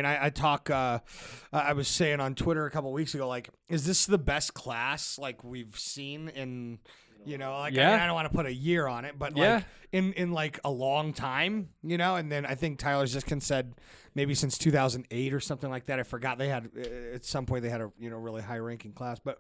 I was saying on Twitter a couple weeks ago, like, is this the best class like we've seen in, I don't want to put a year on it, but like in like a long time, And then I think Tyler Ziskin said maybe since 2008 or something like that. I forgot they had at some point they had a really high ranking class, but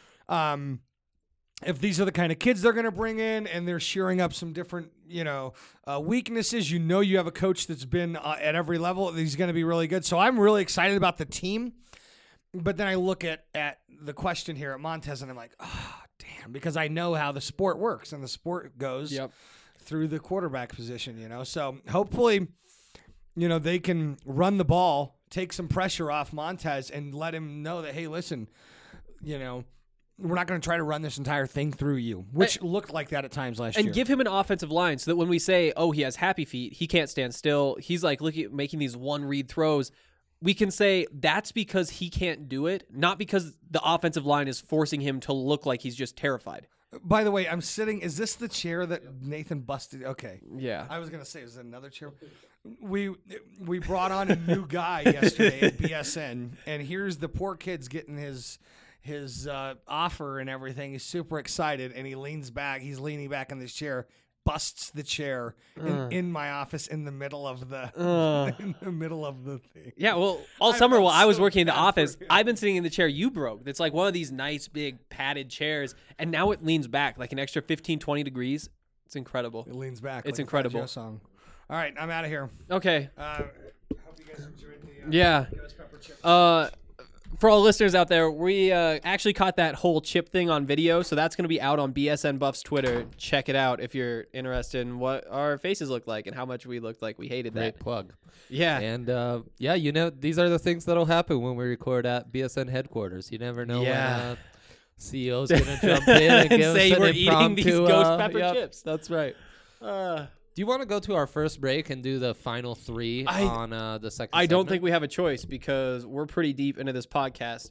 if these are the kind of kids they're going to bring in and they're shearing up some different, weaknesses, you have a coach that's been at every level. He's going to be really good. So I'm really excited about the team. But then I look at the question here at Montez and I'm like, oh, damn, because I know how the sport works and the sport goes through the quarterback position, So hopefully, they can run the ball, take some pressure off Montez and let him know that, hey, listen, we're not going to try to run this entire thing through you, which looked like that at times last year. And give him an offensive line so that when we say, oh, he has happy feet, he can't stand still, he's like making these one-read throws, we can say that's because he can't do it, not because the offensive line is forcing him to look like he's just terrified. By the way, I'm sitting. Is this the chair that Nathan busted? Okay. Yeah. I was going to say, is it another chair? We brought on a new guy yesterday at BSN, and here's the poor kid's getting his offer and everything. He's super excited, and he leans back. He's leaning back in this chair, busts the chair in my office in the middle of the thing. Yeah, well, all summer while I was working in the office, I've been sitting in the chair you broke. It's like one of these nice big padded chairs, and now it leans back like an extra 15, 20 degrees. It's incredible. It leans back. It's like incredible. A Fat Joe song. All right, I'm out of here. Okay. Hope you guys enjoyed the Yeah. ghost pepper chip. For all listeners out there, we actually caught that whole chip thing on video, so that's going to be out on BSN Buff's Twitter. Check it out if you're interested in what our faces look like and how much we looked like we hated Great that. plug. Yeah. And these are the things that'll happen when we record at BSN headquarters. You never know when CEO's gonna jump in and give say us an we're eating these impromptu, ghost pepper yep, chips. That's right. Do you want to go to our first break and do the final three on the second? I don't segment? think we have a choice because we're pretty deep into this podcast.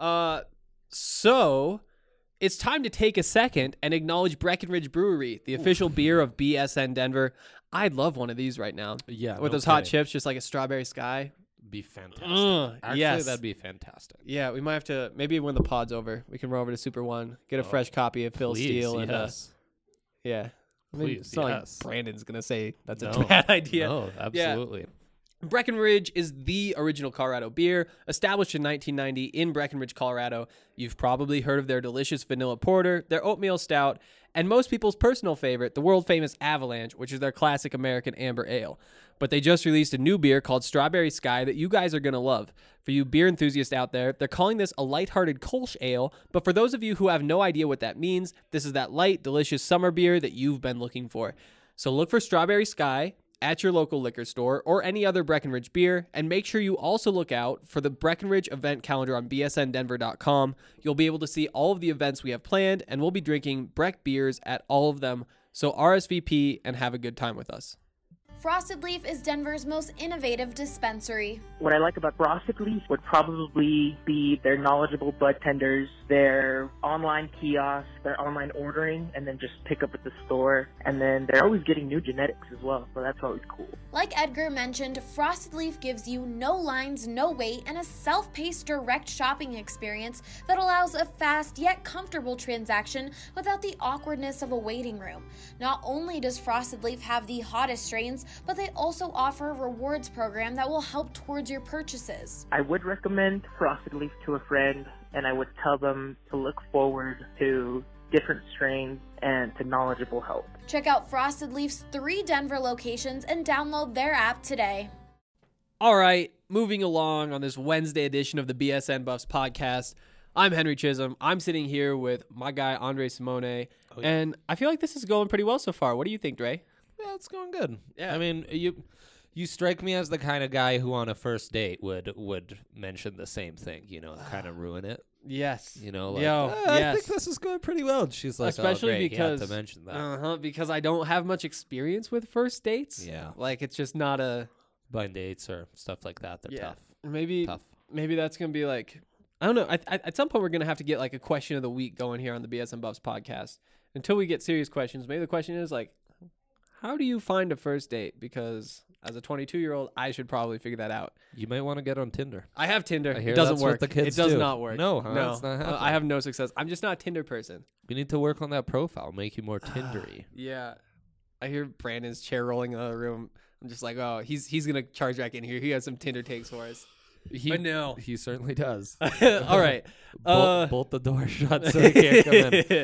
So it's time to take a second and acknowledge Breckenridge Brewery, the official beer of BSN Denver. I'd love one of these right now. Yeah, with no those hot kidding. chips, just like a strawberry sky. Be fantastic. Actually, Actually, that'd be fantastic. Yeah, we might have to, maybe when the pod's over, we can roll over to Super One, get a fresh copy of Phil Please, Steele. yes. And, yeah. I mean, Please, it's not yes. like Brandon's going to say that's No. a bad idea. No, absolutely. Breckenridge is the original Colorado beer, established in 1990 in Breckenridge, Colorado. You've probably heard of their delicious vanilla porter, their oatmeal stout, and most people's personal favorite, the world-famous Avalanche, which is their classic American amber ale. But they just released a new beer called Strawberry Sky that you guys are going to love. For you beer enthusiasts out there, they're calling this a lighthearted Kolsch ale, but for those of you who have no idea what that means, this is that light, delicious summer beer that you've been looking for. So look for Strawberry Sky at your local liquor store or any other Breckenridge beer, and make sure you also look out for the Breckenridge event calendar on bsndenver.com. You'll be able to see all of the events we have planned, and we'll be drinking Breck beers at all of them, so RSVP and have a good time with us. Frosted Leaf is Denver's most innovative dispensary. What I like about Frosted Leaf would probably be their knowledgeable bud tenders, their online kiosks, their online ordering, and then just pick up at the store. And then they're always getting new genetics as well, so that's always cool. Like Edgar mentioned, Frosted Leaf gives you no lines, no wait, and a self-paced direct shopping experience that allows a fast yet comfortable transaction without the awkwardness of a waiting room. Not only does Frosted Leaf have the hottest strains, but they also offer a rewards program that will help towards your purchases. I would recommend Frosted Leaf to a friend, and I would tell them to look forward to different strains and to knowledgeable help. Check out Frosted Leaf's 3 Denver locations and download their app today. All right, moving along on this Wednesday edition of the BSN Buffs podcast. I'm Henry Chisholm. I'm sitting here with my guy, Andre Simone, and I feel like this is going pretty well so far. What do you think, Dre? Yeah, it's going good. Yeah. I mean, you strike me as the kind of guy who on a first date would mention the same thing, kind of ruin it. Yes. Like, yes. I think this is going pretty well. And she's like, especially great, because you have to mention that. Because I don't have much experience with first dates. Yeah. Like it's just not a blind dates or stuff like that. They're tough. Maybe that's gonna be like, I don't know. At some point we're gonna have to get like a question of the week going here on the BSN Buffs podcast. Until we get serious questions, maybe the question is like, how do you find a first date? Because as a 22-year-old, I should probably figure that out. You might want to get on Tinder. I have Tinder. I hear it doesn't that's work. What the kids it does do. not work. No, no, it's not happening. I have no success. I'm just not a Tinder person. You need to work on that profile, make you more Tindery. Yeah, I hear Brandon's chair rolling in the other room. I'm just like, oh, he's gonna charge back in here. He has some Tinder takes for us. But no, he certainly does. All right, bolt the door shut so he can't come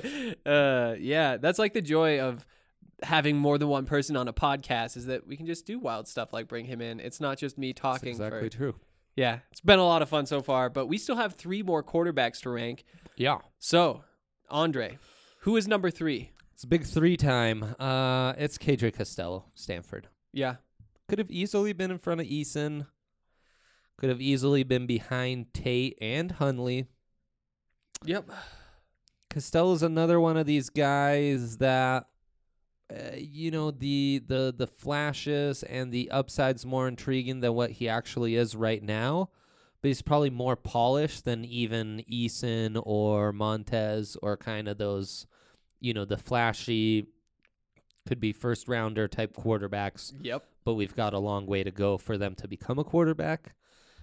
in. Yeah, that's like the joy of having more than one person on a podcast is that we can just do wild stuff like bring him in. It's not just me talking. That's exactly true. Yeah, it's been a lot of fun so far, but we still have 3 more quarterbacks to rank. Yeah. So, Andre, who is number 3? It's a big 3 time. It's KJ Costello, Stanford. Yeah. Could have easily been in front of Eason. Could have easily been behind Tate and Hundley. Yep. Costello's another one of these guys that, the flashes and the upside's more intriguing than what he actually is right now. But he's probably more polished than even Eason or Montez or kind of those, the flashy, could be first rounder type quarterbacks. Yep. But we've got a long way to go for them to become a quarterback.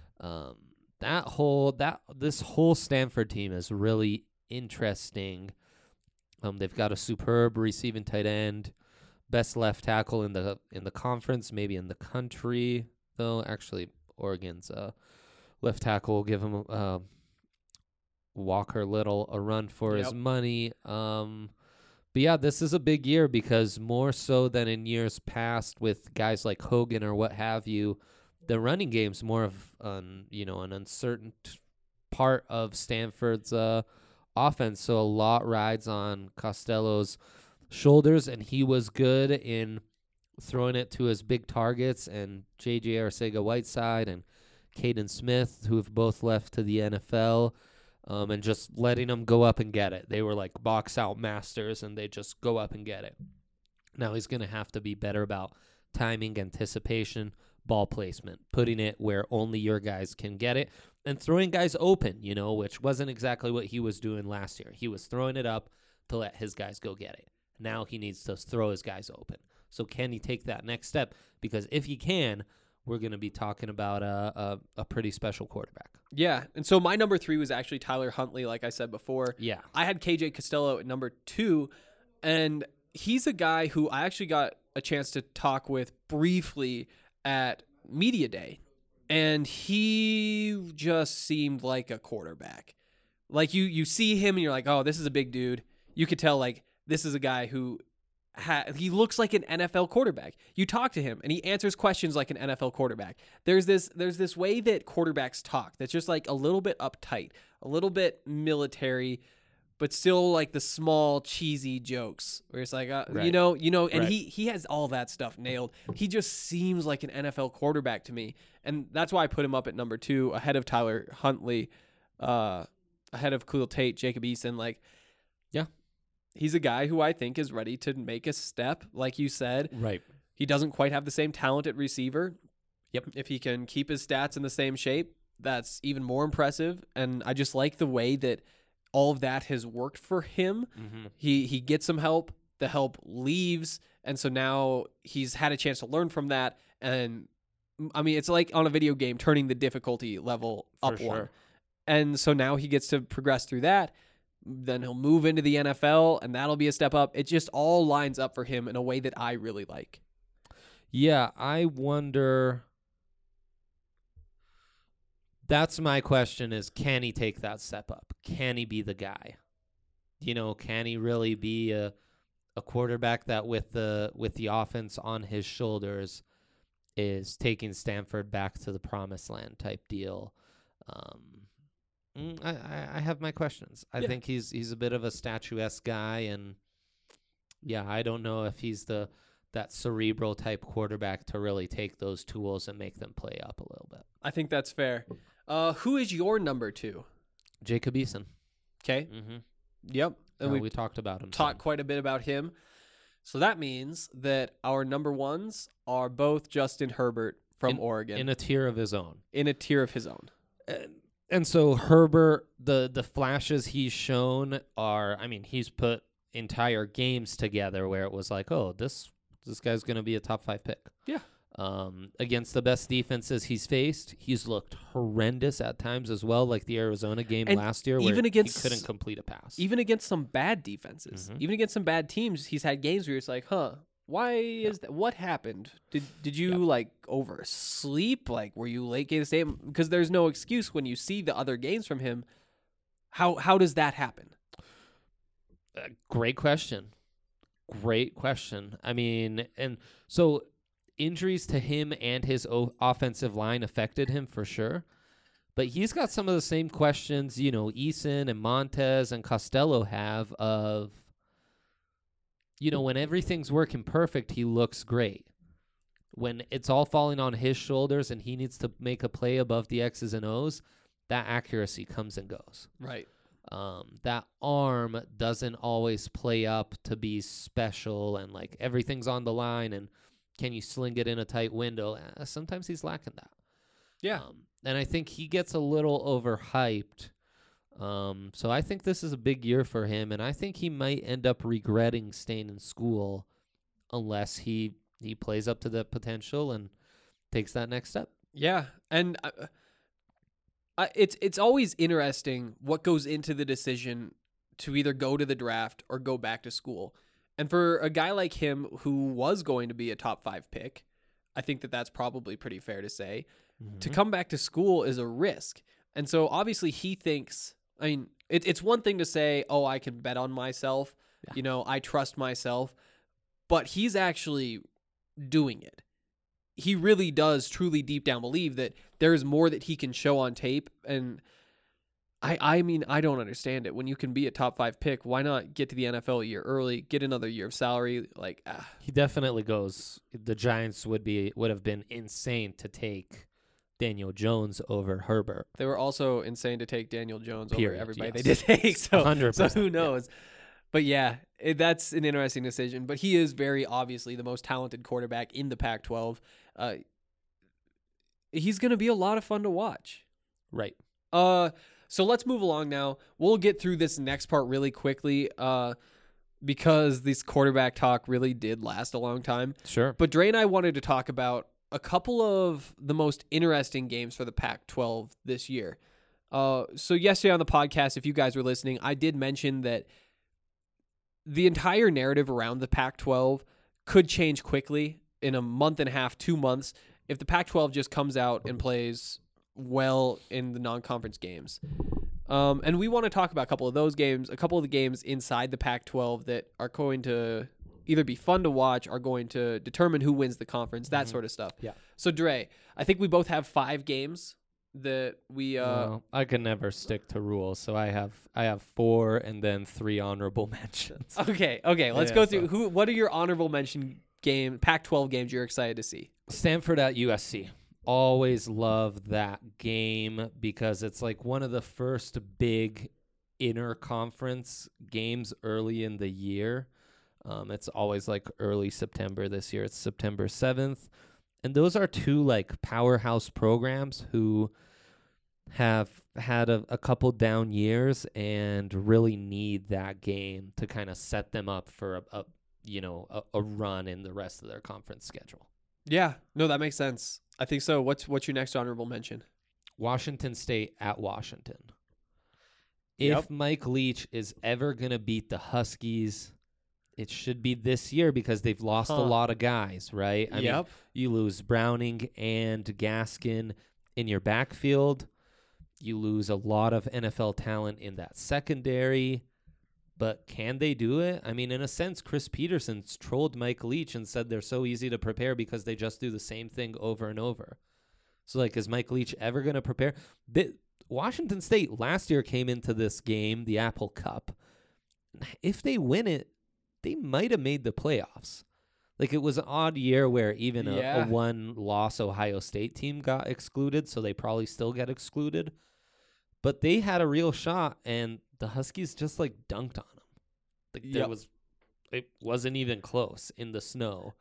This whole Stanford team is really interesting. They've got a superb receiving tight end, best left tackle in the conference, maybe in the country. Though actually, Oregon's left tackle will give him Walker Little a run for his money. But yeah, this is a big year because more so than in years past with guys like Hogan or what have you, the running game's more of an uncertain part of Stanford's offense. So a lot rides on Costello's shoulders, and he was good in throwing it to his big targets, and J.J. Arcega-Whiteside and Caden Smith, who have both left to the NFL, and just letting them go up and get it. They were like box-out masters, and they just go up and get it. Now he's going to have to be better about timing, anticipation, ball placement, putting it where only your guys can get it, and throwing guys open, which wasn't exactly what he was doing last year. He was throwing it up to let his guys go get it. Now he needs to throw his guys open. So can he take that next step? Because if he can, we're going to be talking about a pretty special quarterback. Yeah, and so my number 3 was actually Tyler Huntley, like I said before. Yeah. I had KJ Costello at number 2, and he's a guy who I actually got a chance to talk with briefly at Media Day, and he just seemed like a quarterback. Like you see him and you're like, oh, this is a big dude. You could tell like this is a guy who he looks like an NFL quarterback. You talk to him and he answers questions like an NFL quarterback. There's this way that quarterbacks talk that's just like a little bit uptight, a little bit military, but still like the small cheesy jokes where it's like, Right. and Right. he has all that stuff nailed. He just seems like an NFL quarterback to me. And that's why I put him up at number 2 ahead of Tyler Huntley, ahead of Khalil Tate, Jacob Eason. Like, Yeah. he's a guy who I think is ready to make a step, like you said. Right. He doesn't quite have the same talent at receiver. Yep. If he can keep his stats in the same shape, that's even more impressive. And I just like the way that all of that has worked for him. Mm-hmm. He gets some help. The help leaves. And so now he's had a chance to learn from that. And I mean, it's like on a video game, turning the difficulty level up For one. sure. And so now he gets to progress through that. Then he'll move into the NFL, and that'll be a step up. It just all lines up for him in a way that I really like. Yeah, I wonder. That's my question is, can he take that step up? Can he be the guy? Can he really be a quarterback that with the offense on his shoulders is taking Stanford back to the promised land type deal? I have my questions. I think he's a bit of a statuesque guy, and yeah, I don't know if he's that cerebral type quarterback to really take those tools and make them play up a little bit. I think that's fair. Who is your number 2? Jacob Eason. Okay. Mm-hmm. Yep. And we talked about him. Talked quite a bit about him. So that means that our number 1s are both Justin Herbert from Oregon. in a tier of his own. In a tier of his own. And so Herbert, the flashes he's shown are, I mean, he's put entire games together where it was like, oh, this guy's going to be a top 5 pick. Yeah. Against the best defenses he's faced, he's looked horrendous at times as well, like the Arizona game last year where he couldn't complete a pass. Even against some bad defenses, even against some bad teams, he's had games where it's like, why is that? What happened? Did you like oversleep? Like, were you late game to stay? Because there's no excuse when you see the other games from him. How does that happen? Great question. I mean, and so injuries to him and his offensive line affected him for sure. But he's got some of the same questions, Eason and Montez and Costello have of, when everything's working perfect, he looks great. When it's all falling on his shoulders and he needs to make a play above the X's and O's, that accuracy comes and goes. Right. That arm doesn't always play up to be special and like everything's on the line and can you sling it in a tight window? Sometimes he's lacking that. Yeah. And I think he gets a little overhyped. So I think this is a big year for him, and I think he might end up regretting staying in school unless he plays up to the potential and takes that next step. Yeah, and it's always interesting what goes into the decision to either go to the draft or go back to school. And for a guy like him who was going to be a top 5 pick, I think that's probably pretty fair to say. Mm-hmm. To come back to school is a risk. And so obviously he thinks, I mean, it's one thing to say, oh, I can bet on myself, Yeah. I trust myself. But he's actually doing it. He really does truly deep down believe that there's more that he can show on tape. And I mean, I don't understand it. When you can be a top 5 pick, why not get to the NFL a year early, get another year of salary? He definitely goes. The Giants would have been insane to take Daniel Jones over Herbert. They were also insane to take Daniel Jones Period, over everybody yes. they did take. So, 100%, so who knows? But yeah, that's an interesting decision. But he is very obviously the most talented quarterback in the Pac-12. He's going to be a lot of fun to watch. Right. So let's move along now. We'll get through this next part really quickly because this quarterback talk really did last a long time. Sure. But Dre and I wanted to talk about a couple of the most interesting games for the Pac-12 this year. So yesterday on the podcast, if you guys were listening, I did mention that the entire narrative around the Pac-12 could change quickly in a month and a half, 2 months, if the Pac-12 just comes out and plays well in the non-conference games. And we want to talk about a couple of those games, a couple of the games inside the Pac-12 that are going to either be fun to watch or going to determine who wins the conference, that sort of stuff. Yeah. So Dre, I think we both have 5 games that we Well, I can never stick to rules, so I have 4 and then 3 honorable mentions. Okay, let's Yeah, go through so- what are your honorable mention Pac-12 games you're excited to see? Stanford at USC. Always love that game because it's like one of the first big interconference games early in the year. It's always like early September. This year it's September 7th. And those are 2 like powerhouse programs who have had a couple down years and really need that game to kind of set them up for a run in the rest of their conference schedule. Yeah, no, that makes sense. I think so. What's your next honorable mention? Washington State at Washington. Yep. If Mike Leach is ever going to beat the Huskies, it should be this year because they've lost a lot of guys, right? I mean, you lose Browning and Gaskin in your backfield. You lose a lot of NFL talent in that secondary. But can they do it? I mean, in a sense, Chris Peterson's trolled Mike Leach and said they're so easy to prepare because they just do the same thing over and over. So, like, is Mike Leach ever going to prepare? Washington State last year came into this game, the Apple Cup. If they win it, they might have made the playoffs. Like, it was an odd year where even a one-loss Ohio State team got excluded, so they probably still get excluded. But they had a real shot, and the Huskies just like dunked on them. Like it wasn't even close in the snow.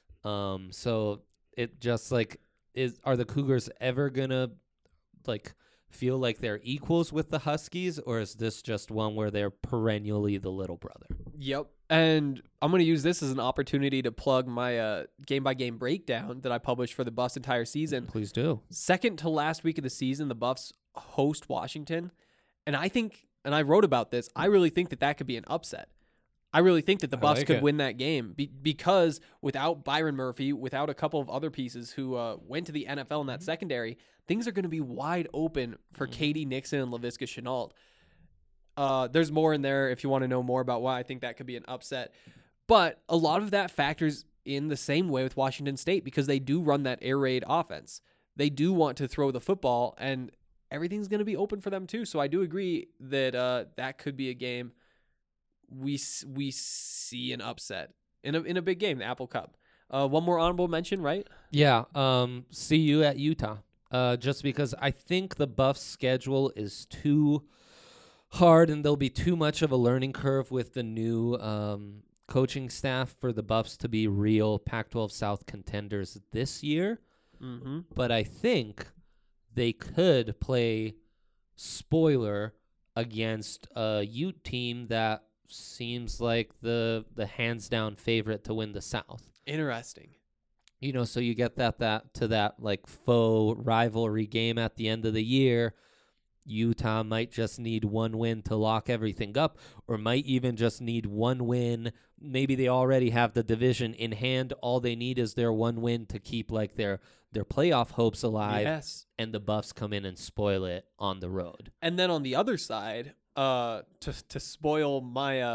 So it just like are the Cougars ever gonna like feel like they're equals with the Huskies, or is this just one where they're perennially the little brother? Yep. And I'm going to use this as an opportunity to plug my game-by-game breakdown that I published for the Buffs entire season. Please do. Second to last week of the season, the Buffs host Washington. And I think, and I wrote about this, I really think that could be an upset. I really think that the Buffs could win that game because without Byron Murphy, without a couple of other pieces who went to the NFL in that secondary, things are going to be wide open for Katie Nixon and Laviska Shenault. There's more in there if you want to know more about why I think that could be an upset. But a lot of that factors in the same way with Washington State because they do run that air raid offense. They do want to throw the football, and everything's going to be open for them too. So I do agree that that could be a game we see an upset in a big game, the Apple Cup. One more honorable mention, right? Yeah. CU at Utah. Just because I think the Buffs' schedule is too hard and there'll be too much of a learning curve with the new coaching staff for the Buffs to be real Pac-12 South contenders this year. Mm-hmm. But I think they could play spoiler against a Ute team that seems like the hands-down favorite to win the South. Interesting. You know, so you get that like faux rivalry game at the end of the year. Utah might just need one win to lock everything up, or might even just need one win. Maybe they already have the division in hand. All they need is their one win to keep like their playoff hopes alive. Yes. And the Buffs come in and spoil it on the road. And then on the other side, to spoil my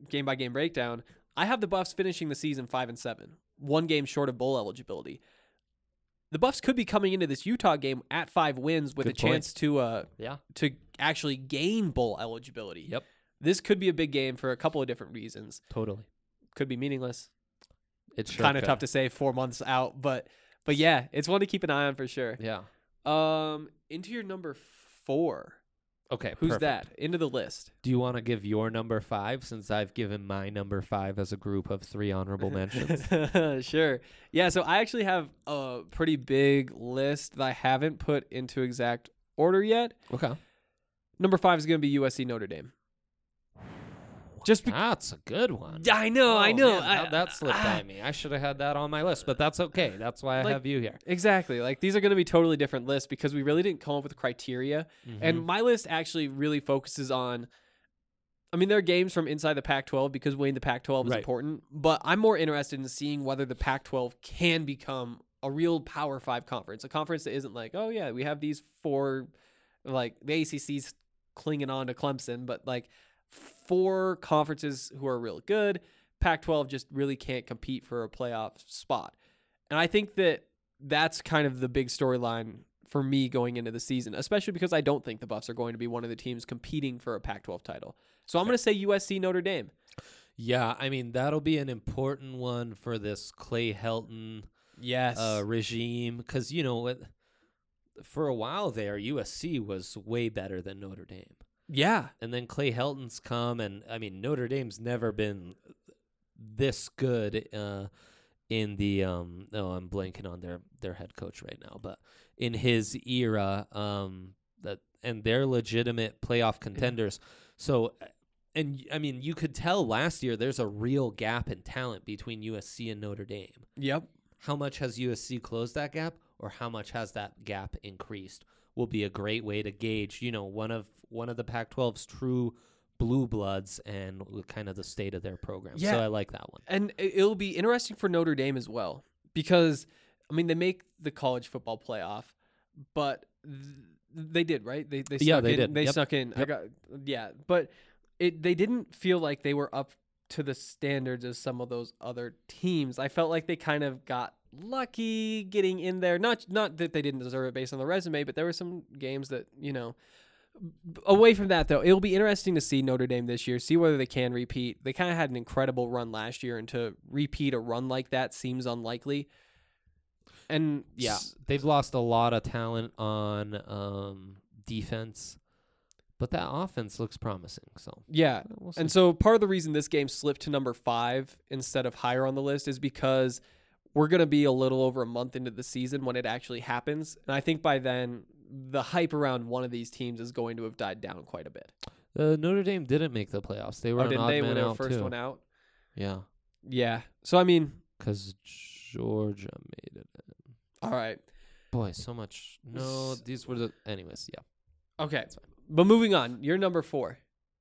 game-by-game breakdown, I have the Buffs finishing the season 5-7, 1 game short of bowl eligibility. The Buffs could be coming into this Utah game at 5 wins with Good a chance to actually gain bowl eligibility. Yep. This could be a big game for a couple of different reasons. Totally. Could be meaningless. It's sure kind of tough to say 4 months out, but yeah, it's one to keep an eye on for sure. Yeah. Into your number 4. Okay. Who's perfect. that? Into the list. Do you want to give your number 5 since I've given my number 5 as a group of 3 honorable mentions? Sure. Yeah, so I actually have a pretty big list that I haven't put into exact order yet. Okay. Number 5 is going to be USC Notre Dame. That's a good one. I know. Man, how'd that slipped by me. I should have had that on my list, but that's okay. That's why I have you here. Exactly. Like, these are going to be totally different lists because we really didn't come up with criteria. And my list actually really focuses on, I mean, there are games from inside the Pac-12 because winning the Pac-12 is important, but I'm more interested in seeing whether the Pac-12 can become a real Power 5 conference, a conference that isn't like, oh yeah, we have these 4, like the ACC's clinging on to Clemson, but like 4 conferences who are really good. Pac-12 just really can't compete for a playoff spot. And I think that that's kind of the big storyline for me going into the season, especially because I don't think the Buffs are going to be one of the teams competing for a Pac-12 title. So I'm going to say USC Notre Dame. Yeah, I mean, that'll be an important one for this Clay Helton regime because, you know, for a while there, USC was way better than Notre Dame. Yeah. And then Clay Helton's come, and, I mean, Notre Dame's never been this good in the I'm blanking on their head coach right now, but in his era, and they're legitimate playoff contenders. So, and I mean, you could tell last year there's a real gap in talent between USC and Notre Dame. Yep. How much has USC closed that gap, or how much has that gap increased? Will be a great way to gauge, you know, one of the Pac-12's true blue bloods and kind of the state of their program. Yeah. So I like that one. And it'll be interesting for Notre Dame as well because, I mean, they make the college football playoff, but they did, right? They snuck in. did. They Yep. snuck in. Yep. But they didn't feel like they were up to the standards of some of those other teams. I felt like they kind of got lucky getting in there. Not that they didn't deserve it based on the resume, but there were some games that, you know, away from that though, it'll be interesting to see Notre Dame this year, see whether they can repeat. They kind of had an incredible run last year, and to repeat a run like that seems unlikely. And yeah, they've lost a lot of talent on defense, but that offense looks promising. So yeah, we'll see. And so part of the reason this game slipped to number 5 instead of higher on the list is because we're going to be a little over a month into the season when it actually happens. And I think by then, the hype around one of these teams is going to have died down quite a bit. Notre Dame didn't make the playoffs. They were an odd they man were out first too. one out? Yeah. Yeah. So, I mean, because Georgia made it in. All right. Boy, so much. No, these were the... Anyways, yeah. Okay. But moving on, your number 4.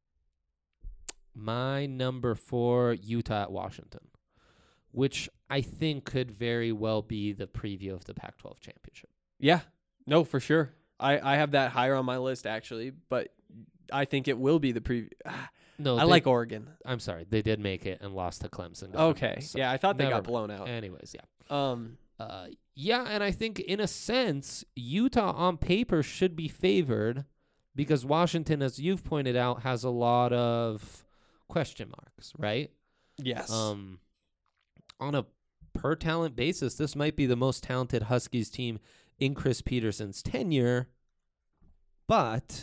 My number 4, Utah at Washington, which I think could very well be the preview of the Pac-12 championship. Yeah. No, for sure. I have that higher on my list, actually, but I think it will be the preview. No, I like Oregon. I'm sorry. They did make it and lost to Clemson. Okay. So yeah, I thought they got blown out. Anyways, yeah. Yeah, and I think in a sense, Utah on paper should be favored because Washington, as you've pointed out, has a lot of question marks, right? Yes. On a per talent basis, this might be the most talented Huskies team in Chris Peterson's tenure, but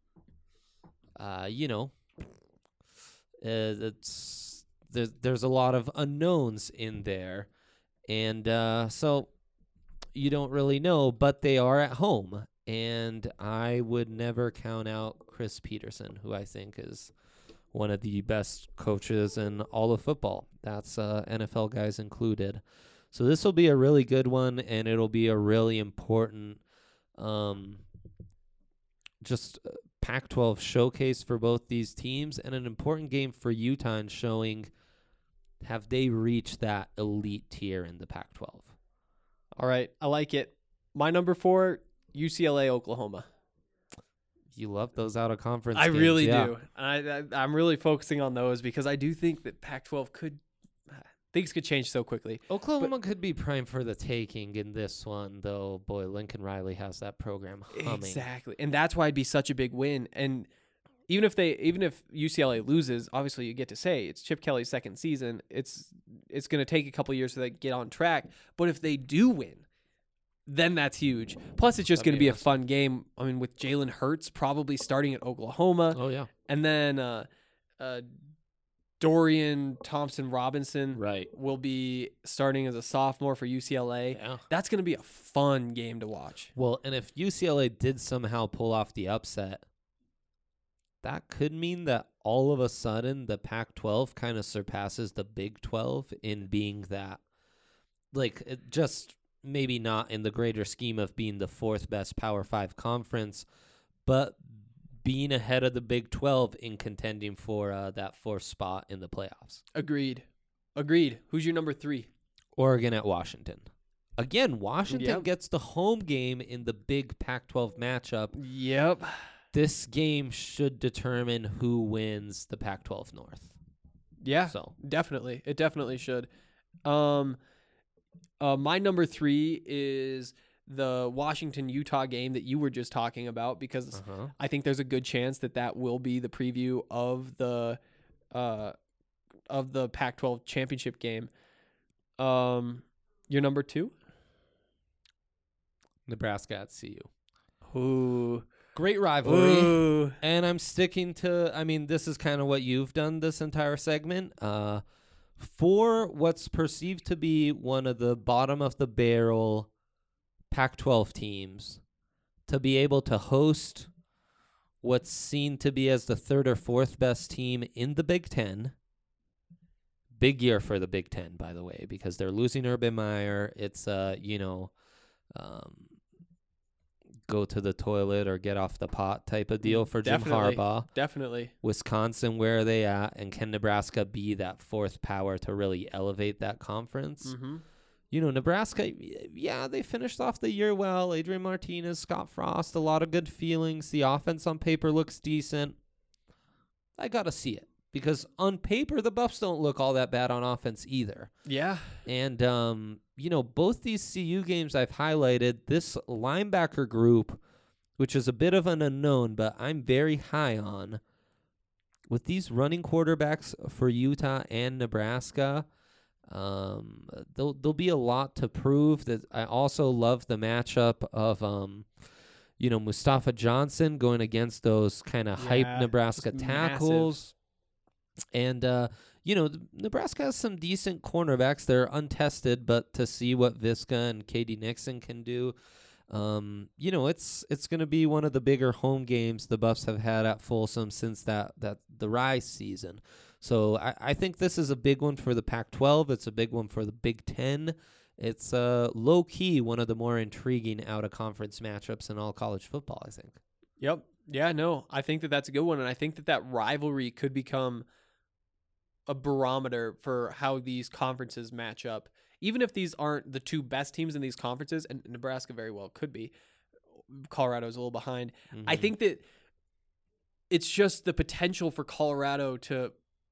you know, there's a lot of unknowns in there, and so you don't really know, but they are at home, and I would never count out Chris Peterson, who I think is one of the best coaches in all of football. That's NFL guys included. So this will be a really good one, and it'll be a really important Pac-12 showcase for both these teams, and an important game for Utah in showing have they reached that elite tier in the Pac-12. All right, I like it. My number 4, UCLA, Oklahoma. You love those out of conference. I games, really yeah. do. I'm really focusing on those because I do think that Pac-12 things could change so quickly. Oklahoma could be prime for the taking in this one, though. Boy, Lincoln Riley has that program humming. Exactly, and that's why it'd be such a big win. And even if UCLA loses, obviously you get to say it's Chip Kelly's second season. It's going to take a couple years to get on track. But if they do win, then that's huge. Plus, it's just going to be a fun game. I mean, with Jalen Hurts probably starting at Oklahoma. Oh, yeah. And then Dorian Thompson-Robinson will be starting as a sophomore for UCLA. Yeah. That's going to be a fun game to watch. Well, and if UCLA did somehow pull off the upset, that could mean that all of a sudden the Pac-12 kind of surpasses the Big 12 in being that, just maybe not in the greater scheme of being the fourth best Power 5 conference, but being ahead of the Big 12 in contending for that fourth spot in the playoffs. Agreed. Who's your number 3? Oregon at Washington. Again, Washington gets the home game in the big Pac-12 matchup. Yep. This game should determine who wins the Pac-12 North. Yeah, definitely. It definitely should. My number 3 is the Washington-Utah game that you were just talking about because I think there's a good chance that will be the preview of the Pac-12 championship game. Your number 2? Nebraska at CU. Ooh. Great rivalry. Ooh. And I'm sticking to, this is kind of what you've done this entire segment. For what's perceived to be one of the bottom of the barrel Pac-12 teams, to be able to host what's seen to be as the third or fourth best team in the Big Ten. Big year for the Big Ten, by the way, because they're losing Urban Meyer. It's, go to the toilet or get off the pot type of deal for Jim Harbaugh. Definitely. Wisconsin, where are they at? And can Nebraska be that fourth power to really elevate that conference? Mm-hmm. Nebraska, they finished off the year well. Adrian Martinez, Scott Frost, a lot of good feelings. The offense on paper looks decent. I got to see it because on paper, the Buffs don't look all that bad on offense either. Yeah. And, both these CU games I've highlighted, this linebacker group, which is a bit of an unknown, but I'm very high on. With these running quarterbacks for Utah and Nebraska, there'll be a lot to prove. That I also love the matchup of, Mustafa Johnson going against those kind of hype Nebraska tackles. And, Nebraska has some decent cornerbacks. They're untested, but to see what Visca and K.D. Nixon can do, it's going to be one of the bigger home games the Buffs have had at Folsom since the Rise season. So I think this is a big one for the Pac-12. It's a big one for the Big Ten. It's low-key one of the more intriguing out-of-conference matchups in all college football, I think. Yep. Yeah, no, I think that's a good one, and I think that rivalry could become a barometer for how these conferences match up. Even if these aren't the two best teams in these conferences, and Nebraska very well could be, Colorado's a little behind. Mm-hmm. I think that it's just the potential for Colorado to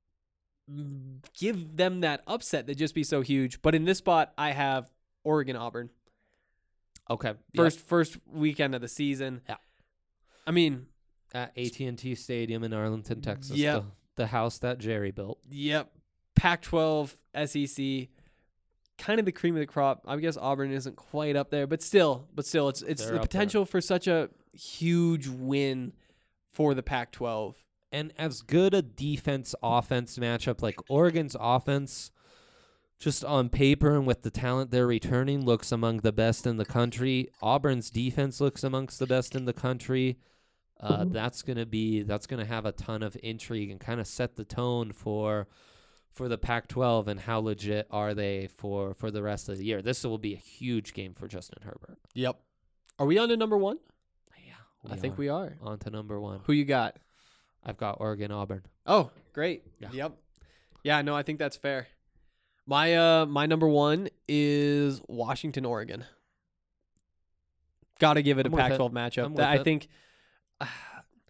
give them that upset that'd just be so huge. But in this spot, I have Oregon-Auburn. Okay. First weekend of the season. Yeah. I mean, at AT&T Stadium in Arlington, Texas. Yep. The house that Jerry built. Yep. Pac-12, SEC, kind of the cream of the crop. I guess Auburn isn't quite up there, but still, it's the potential for such a huge win for the Pac-12. And as good a defense-offense matchup, like Oregon's offense, just on paper and with the talent they're returning, looks among the best in the country. Auburn's defense looks amongst the best in the country. That's gonna have a ton of intrigue and kind of set the tone for the Pac-12 and how legit are they for the rest of the year. This will be a huge game for Justin Herbert. Yep. Are we on to number 1? Yeah, I think we are. On to number 1. Who you got? I've got Oregon-Auburn. Oh, great. Yeah. Yep. Yeah, no, I think that's fair. My number 1 is Washington-Oregon. Got to give it a Pac-12 matchup. I think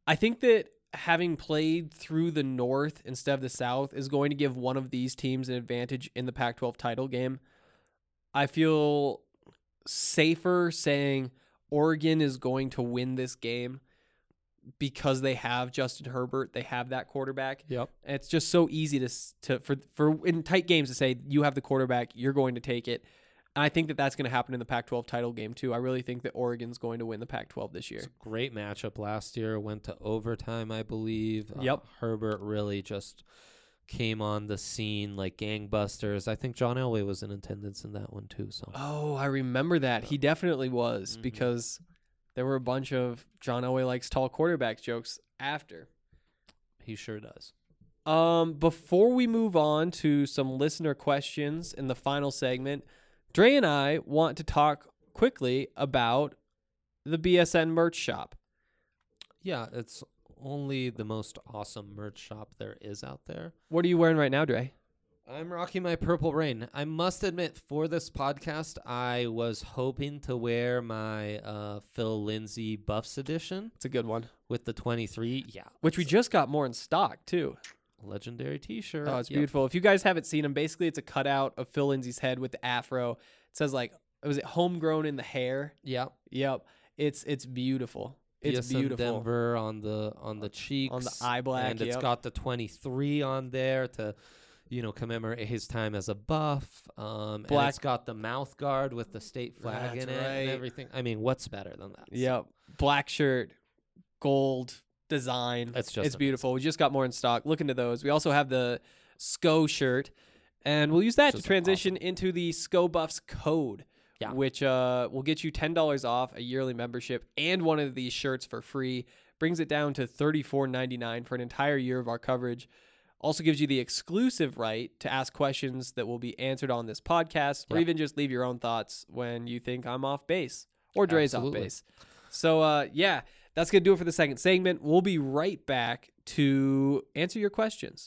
I think that having played through the North instead of the South is going to give one of these teams an advantage in the Pac-12 title game. I feel safer saying Oregon is going to win this game because they have Justin Herbert. They have that quarterback. Yep. And it's just so easy for in tight games to say you have the quarterback, you're going to take it. And I think that that's going to happen in the Pac-12 title game too. I really think that Oregon's going to win the Pac-12 this year. It's a great matchup last year. Went to overtime, I believe. Yep. Herbert really just came on the scene like gangbusters. I think John Elway was in attendance in that one too. So. Oh, I remember that. He definitely was because there were a bunch of John Elway likes tall quarterbacks jokes after. He sure does. Before we move on to some listener questions in the final segment, Dre and I want to talk quickly about the BSN merch shop. Yeah, it's only the most awesome merch shop there is out there. What are you wearing right now, Dre? I'm rocking my Purple Rain. I must admit, for this podcast, I was hoping to wear my Phil Lindsay Buffs edition. It's a good one. With the 23. Yeah. Which we just got more in stock, too. Legendary t-shirt. Oh, it's beautiful. If you guys haven't seen them, basically it's a cutout of Phil Lindsay's head with the afro. It says was it homegrown in the hair? Yep. It's beautiful. It's BSN beautiful. Denver on the cheeks, on the eye black, and it's got the 23 on there to, commemorate his time as a Buff. And it's got the mouth guard with the state flag in it and everything. I mean, what's better than that? Yep. Black shirt, gold design. It's beautiful. We just got more in stock. Look into those. We also have the SCO shirt, and we'll use that to transition into the SCO Buffs code, which will get you $10 off a yearly membership and one of these shirts for free. Brings it down to $34.99 for an entire year of our coverage. Also gives you the exclusive right to ask questions that will be answered on this podcast, or even just leave your own thoughts when you think I'm off base or Dre's off base. So, that's going to do it for the second segment. We'll be right back to answer your questions.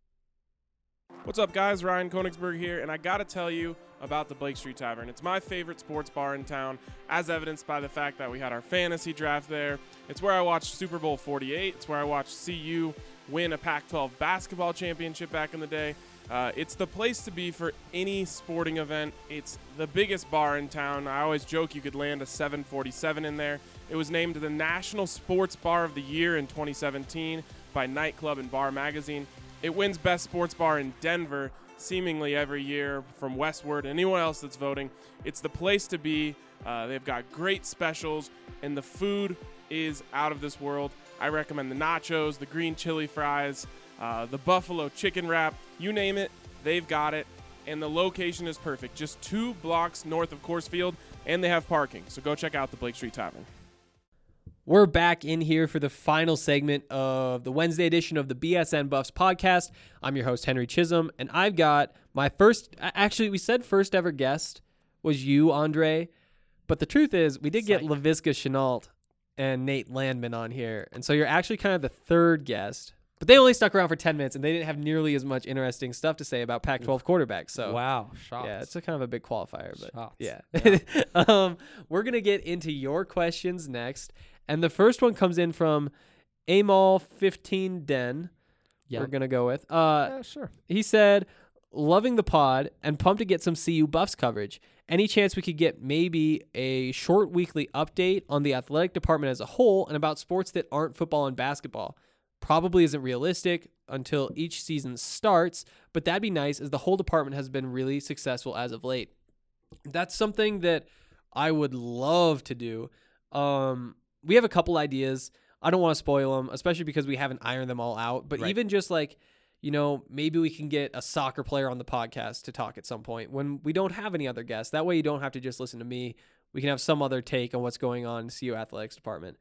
What's up, guys? Ryan Konigsberg here, and I got to tell you about the Blake Street Tavern. It's my favorite sports bar in town, as evidenced by the fact that we had our fantasy draft there. It's where I watched Super Bowl 48. It's where I watched CU win a Pac-12 basketball championship back in the day. It's the place to be for any sporting event. It's the biggest bar in town. I always joke you could land a 747 in there. It was named the National Sports Bar of the Year in 2017 by Nightclub and Bar Magazine. It wins Best Sports Bar in Denver seemingly every year from Westward. Anyone else that's voting, it's the place to be. They've got great specials, and the food is out of this world. I recommend the nachos, the green chili fries, the buffalo chicken wrap, you name it, they've got it. And the location is perfect, just 2 blocks north of Coors Field, and they have parking. So go check out the Blake Street Tavern. We're back in here for the final segment of the Wednesday edition of the BSN Buffs podcast. I'm your host, Henry Chisholm, and I've got my first ever guest was you, Andre. But the truth is, we did get LaVisca Chenault and Nate Landman on here. And so you're actually kind of the third guest. But they only stuck around for 10 minutes, and they didn't have nearly as much interesting stuff to say about Pac-12 quarterbacks. So wow, shots. Yeah, it's a kind of a big qualifier. But shots. Yeah. We're going to get into your questions next. And the first one comes in from Amal15 Den. We're going to go with. Sure. He said, loving the pod and pumped to get some CU Buffs coverage. Any chance we could get maybe a short weekly update on the athletic department as a whole and about sports that aren't football and basketball? Probably isn't realistic until each season starts, but that'd be nice as the whole department has been really successful as of late. That's something that I would love to do. We have a couple ideas. I don't want to spoil them, especially because we haven't ironed them all out. But even just maybe we can get a soccer player on the podcast to talk at some point when we don't have any other guests. That way you don't have to just listen to me. We can have some other take on what's going on in CU Athletics Department.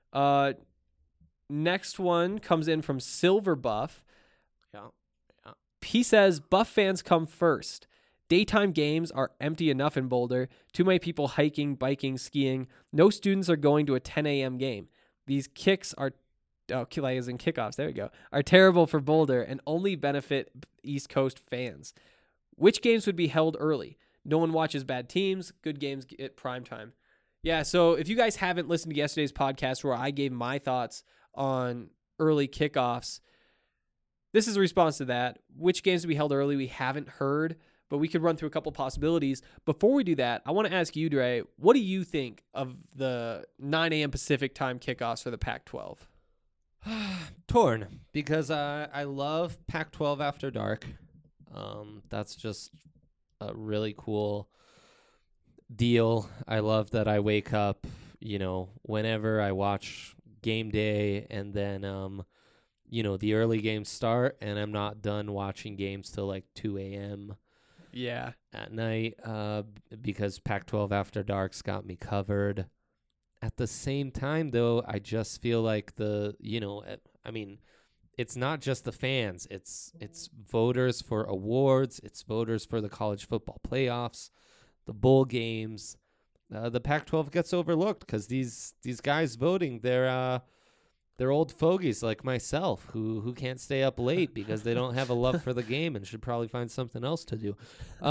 Next one comes in from Silver Buff. Yeah. He says, Buff fans come first. Daytime games are empty enough in Boulder. Too many people hiking, biking, skiing. No students are going to a 10 a.m. game. These kicks are, as in kickoffs, there we go, are terrible for Boulder and only benefit East Coast fans. Which games would be held early? No one watches bad teams. Good games at prime time. Yeah, so if you guys haven't listened to yesterday's podcast where I gave my thoughts on early kickoffs. This is a response to that. Which games to be held early, we haven't heard, but we could run through a couple possibilities. Before we do that, I want to ask you, Dre, what do you think of the 9 a.m. Pacific time kickoffs for the Pac-12? Torn, because I love Pac-12 After Dark. That's just a really cool deal. I love that I wake up, whenever I watch game day, and then, the early games start, and I'm not done watching games till like 2 a.m. Yeah. At night, because Pac-12 After Dark's got me covered. At the same time, though, I just feel like it's not just the fans. It's voters for awards. It's voters for the college football playoffs, the bowl games. The Pac-12 gets overlooked because these guys voting, they're old fogies like myself who can't stay up late because they don't have a love for the game and should probably find something else to do.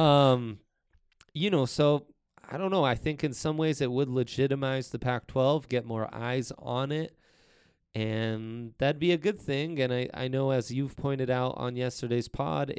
So I don't know. I think in some ways it would legitimize the Pac-12, get more eyes on it, and that'd be a good thing. And I know, as you've pointed out on yesterday's pod,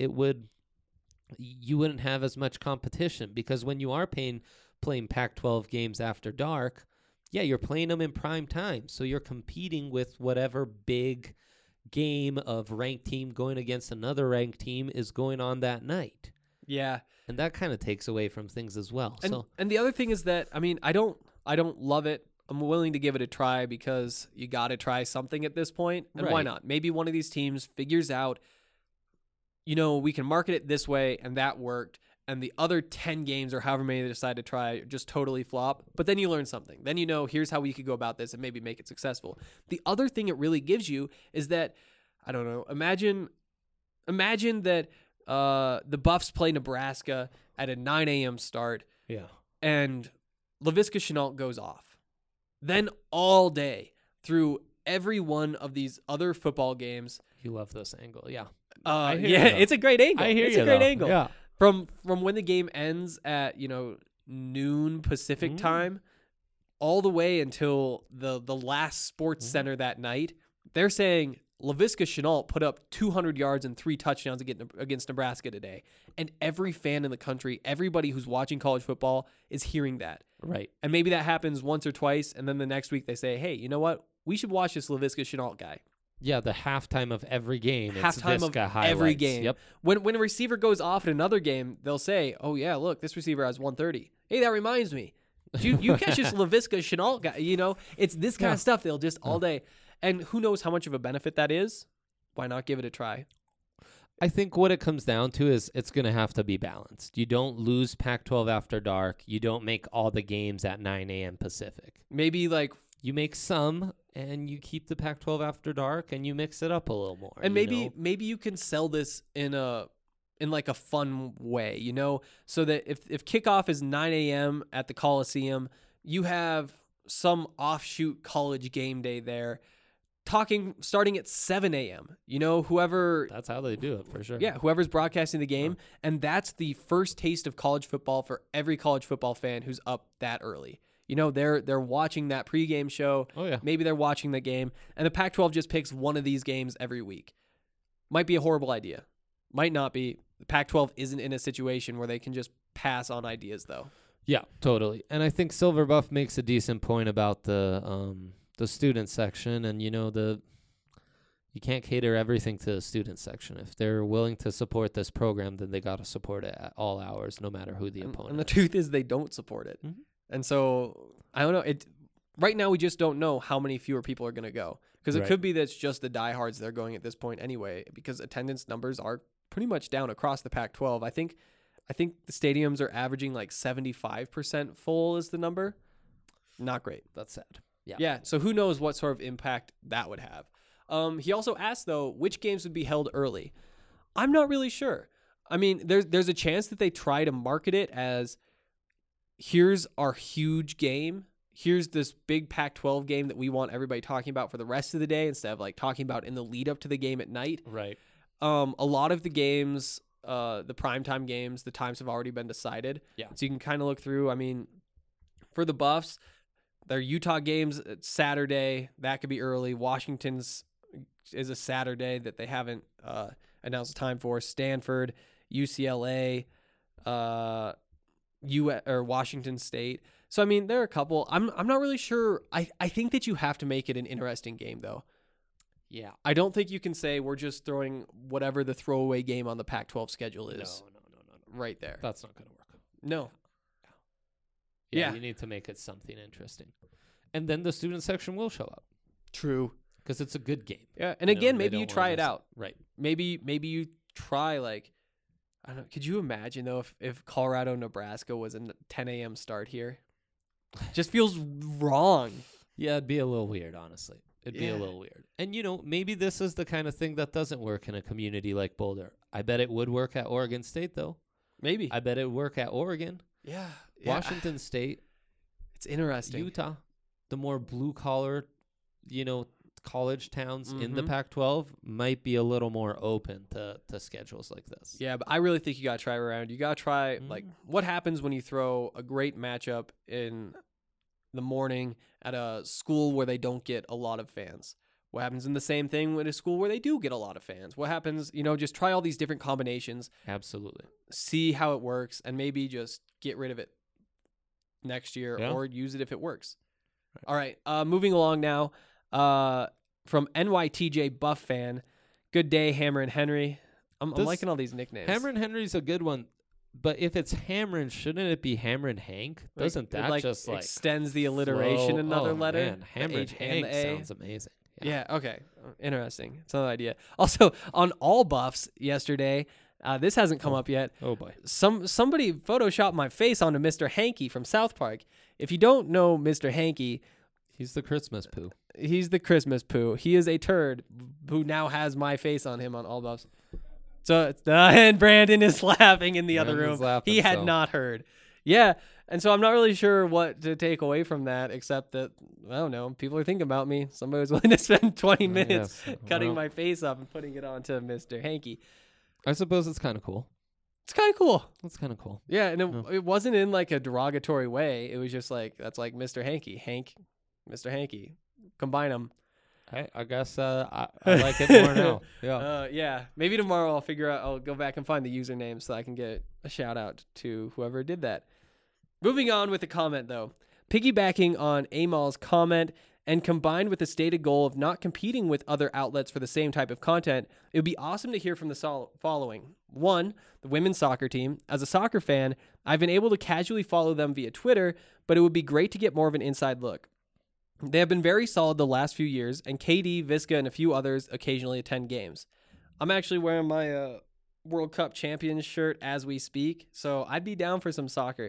you wouldn't have as much competition because when you are playing Pac-12 games after dark, yeah, you're playing them in prime time. So you're competing with whatever big game of ranked team going against another ranked team is going on that night. Yeah. And that kind of takes away from things as well. And the other thing is that, I don't love it. I'm willing to give it a try because you got to try something at this point. And why not? Maybe one of these teams figures out, we can market it this way and that worked. And the other 10 games or however many they decide to try just totally flop. But then you learn something. Then here's how we could go about this and maybe make it successful. The other thing it really gives you is that, I don't know, imagine that the Buffs play Nebraska at a 9 a.m. start. Yeah. And Laviska Shenault goes off. Then all day through every one of these other football games. You love this angle, yeah. It's a great angle. It's a great angle. Yeah. From when the game ends at, noon Pacific time all the way until the last Sports Center that night, they're saying Laviska Shenault put up 200 yards and 3 touchdowns against Nebraska today. And every fan in the country, everybody who's watching college football is hearing that. Right. And maybe that happens once or twice, and then the next week they say, hey, you know what? We should watch this Laviska Shenault guy. Yeah, the halftime of every game. Halftime of every game. Yep. When a receiver goes off in another game, they'll say, oh, yeah, look, this receiver has 130. Hey, that reminds me. You catch this Laviska Shenault guy. It's this kind of stuff they'll just all day. And who knows how much of a benefit that is? Why not give it a try? I think what it comes down to is it's going to have to be balanced. You don't lose Pac-12 After Dark. You don't make all the games at 9 a.m. Pacific. Maybe you make some, and you keep the Pac-12 After Dark, and you mix it up a little more. And maybe you can sell this in a fun way, so that if kickoff is 9 a.m. at the Coliseum, you have some offshoot college game day there. Starting at 7 a.m. Whoever... That's how they do it, for sure. Yeah, whoever's broadcasting the game. And that's the first taste of college football for every college football fan who's up that early. They're watching that pregame show. Oh, yeah. Maybe they're watching the game. And the Pac-12 just picks one of these games every week. Might be a horrible idea. Might not be. The Pac-12 isn't in a situation where they can just pass on ideas, though. Yeah, totally. And I think Silver Buff makes a decent point about the student section, and you can't cater everything to the student section. If they're willing to support this program, then they got to support it at all hours, no matter who the opponent and the is. truth is they don't support it. Mm-hmm. And so I don't know. Right now we just don't know how many fewer people are going to go, because it could be that it's just the diehards that are going at this point anyway, because attendance numbers are pretty much down across the Pac-12. I think the stadiums are averaging like 75% full is the number. Not great. That's sad. Yeah. So who knows what sort of impact that would have. He also asked, though, which games would be held early. I'm not really sure. There's a chance that they try to market it as, here's our huge game. Here's this big Pac-12 game that we want everybody talking about for the rest of the day instead of talking about in the lead up to the game at night. Right. A lot of the games, the primetime games, the times have already been decided. Yeah. So you can kind of look through. For the Buffs, their Utah games Saturday. That could be early. Washington's is a Saturday that they haven't announced a time for. Stanford, UCLA, or Washington State. So I mean, there are a couple. I'm not really sure. I think that you have to make it an interesting game though. Yeah. I don't think you can say we're just throwing whatever the throwaway game on the Pac-12 schedule is. No. Right there. That's not going to work. No. Yeah, you need to make it something interesting. And then the student section will show up. True. Because it's a good game. Yeah, and again, maybe you try it out. Right. Maybe you try, like, I don't know. Could you imagine, though, if Colorado, Nebraska was a 10 a.m. start here? Just feels wrong. Yeah, it'd be a little weird, honestly. It'd be a little weird. And, maybe this is the kind of thing that doesn't work in a community like Boulder. I bet it would work at Oregon State, though. Maybe. I bet it would work at Oregon. Yeah. Washington State. It's interesting. Utah. The more blue-collar, college towns in the Pac-12 might be a little more open to schedules like this. Yeah, but I really think you got to try around. You got to try, like, what happens when you throw a great matchup in the morning at a school where they don't get a lot of fans? What happens in the same thing with a school where they do get a lot of fans? What happens, just try all these different combinations. Absolutely. See how it works, and maybe just get rid of it next year or use it if it works. Right. All right, moving along now. From NYTJ Buff fan, good day, Hammer and Henry. I'm liking all these nicknames. Hammer and Henry's a good one, but if it's Hammer, shouldn't it be Hammer and Hank? Doesn't that just extends the alliteration another letter? Man, Hammer and Hank sounds amazing. Yeah, okay. Interesting. It's another idea. Also, on All Buffs yesterday, this hasn't come up yet. Oh, boy. Somebody photoshopped my face onto Mr. Hanky from South Park. If you don't know Mr. Hanky... He's the Christmas poo. He's the Christmas poo. He is a turd who now has my face on him on All Buffs. So, and Brandon is laughing in the other room. He had not heard. Yeah. And so I'm not really sure what to take away from that, except that, I don't know, people are thinking about me. Somebody was willing to spend 20 minutes cutting my face up and putting it onto Mr. Hanky. I suppose it's kind of cool. It's kind of cool. It's kind of cool. Yeah, and it wasn't in like a derogatory way. It was just like, that's like Mr. Hanky. Hank, Mr. Hanky. Combine them. I guess I like it more now. Yeah. Yeah. Maybe tomorrow I'll go back and find the username so I can get a shout out to whoever did that. Moving on with the comment, though. Piggybacking on Amal's comment and combined with the stated goal of not competing with other outlets for the same type of content, it would be awesome to hear from the following. 1, the women's soccer team. As a soccer fan, I've been able to casually follow them via Twitter, but it would be great to get more of an inside look. They have been very solid the last few years, and KD, Visca, and a few others occasionally attend games. I'm actually wearing my World Cup champions shirt as we speak, so I'd be down for some soccer.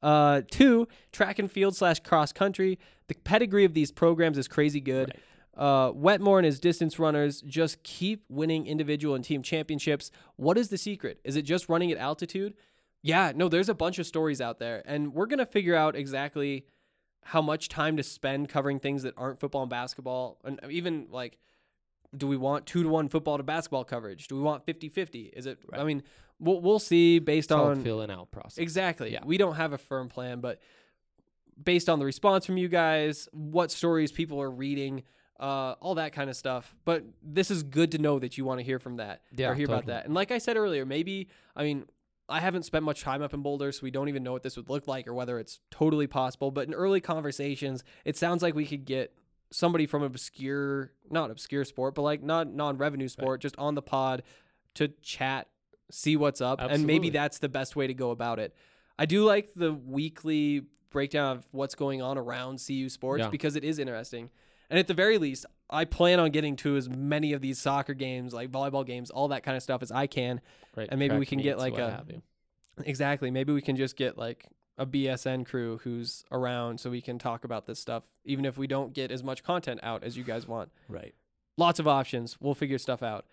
2, track and field / cross country. The pedigree of these programs is crazy good. Right. Wetmore and his distance runners just keep winning individual and team championships. What is the secret? Is it just running at altitude? Yeah, no, there's a bunch of stories out there, and we're going to figure out exactly how much time to spend covering things that aren't football and basketball. And even like, do we want 2-to-1 football to basketball coverage? Do we want 50-50? Is it, right. I mean, we'll see based on filling out process. Exactly. Yeah. We don't have a firm plan, but based on the response from you guys, what stories people are reading, all that kind of stuff. But this is good to know that you want to hear from that or hear about that. And like I said earlier, maybe, I mean, I haven't spent much time up in Boulder, so we don't even know what this would look like or whether it's totally possible. But in early conversations, it sounds like we could get somebody from not obscure sport, but like not non-revenue sport, just on the pod to chat, see what's up. Absolutely. And maybe that's the best way to go about it. I do like the weekly breakdown of what's going on around CU sports because it is interesting. And at the very least, I plan on getting to as many of these soccer games, like volleyball games, all that kind of stuff as I can. Right. And maybe we can get like exactly. Maybe we can just get like a BSN crew who's around so we can talk about this stuff, even if we don't get as much content out as you guys want. Right. Lots of options. We'll figure stuff out.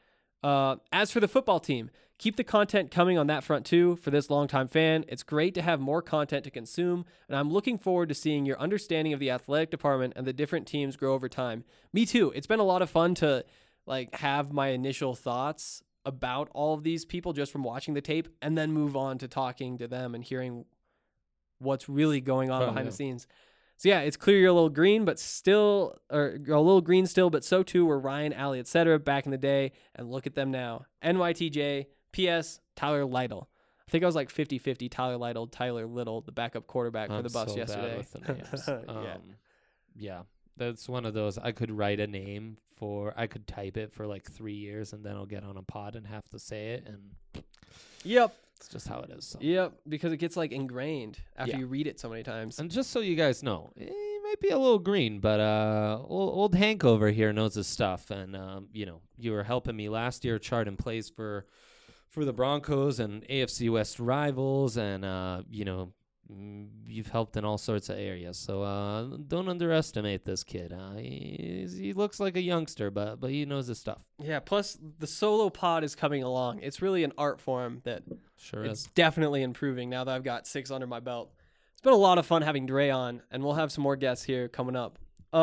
As for the football team, keep the content coming on that front too. For this longtime fan, it's great to have more content to consume, and I'm looking forward to seeing your understanding of the athletic department and the different teams grow over time. Me too. It's been a lot of fun to like have my initial thoughts about all of these people just from watching the tape and then move on to talking to them and hearing what's really going on behind the scenes. So yeah, it's clear you're a little green, but still, or you're a little green still, but so too were Ryan, Allie, etc. back in the day, and look at them now. NYTJ, P.S. Tyler Lytle. I think I was like 50-50 Tyler Lytle, Tyler Little, the backup quarterback for the Buffs yesterday. Bad with the names. Yeah, that's one of those. I could write a name I could type it for like 3 years, and then I'll get on a pod and have to say it, and yep. It's just how it is. So. Yep, because it gets like ingrained after you read it so many times. And just so you guys know, he might be a little green, but old Hank over here knows his stuff. And you were helping me last year charting plays for the Broncos and AFC West rivals, and you've helped in all sorts of areas. So don't underestimate this kid. He looks like a youngster, but he knows his stuff. Yeah. Plus, the solo pod is coming along. It's really an art form that. Sure it's is. Definitely improving now that I've got 6 under my belt. It's been a lot of fun having Dre on, and we'll have some more guests here coming up.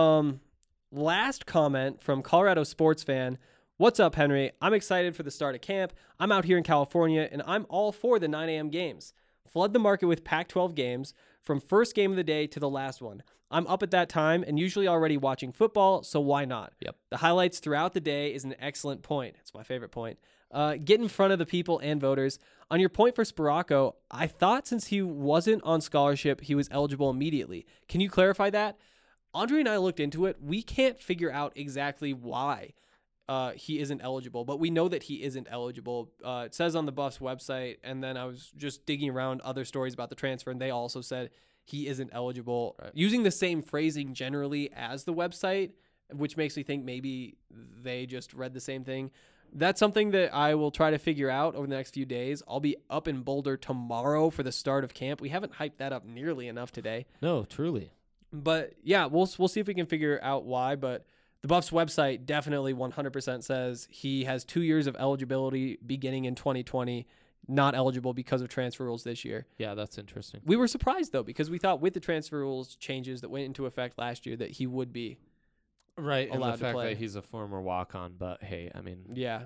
Last comment from Colorado sports fan. What's up, Henry? I'm excited for the start of camp. I'm out here in California, and I'm all for the 9 a.m. games. Flood the market with Pac-12 games from first game of the day to the last one. I'm up at that time and usually already watching football, so why not? Yep. The highlights throughout the day is an excellent point. It's my favorite point. Get in front of the people and voters. On your point for Sparacco, I thought since he wasn't on scholarship, he was eligible immediately. Can you clarify that? Andre and I looked into it. We can't figure out exactly why he isn't eligible, but we know that he isn't eligible. It says on the Buffs website, and then I was just digging around other stories about the transfer, and they also said he isn't eligible, using the same phrasing generally as the website, which makes me think maybe they just read the same thing. That's something that I will try to figure out over the next few days. I'll be up in Boulder tomorrow for the start of camp. We haven't hyped that up nearly enough today. No, truly. But yeah, we'll see if we can figure out why. But the Buffs website definitely 100% says he has 2 years of eligibility beginning in 2020, not eligible because of transfer rules this year. Yeah, that's interesting. We were surprised, though, because we thought with the transfer rules changes that went into effect last year that he would be right, allowed and the fact to play. that he's a former walk-on, but hey, I mean... Yeah.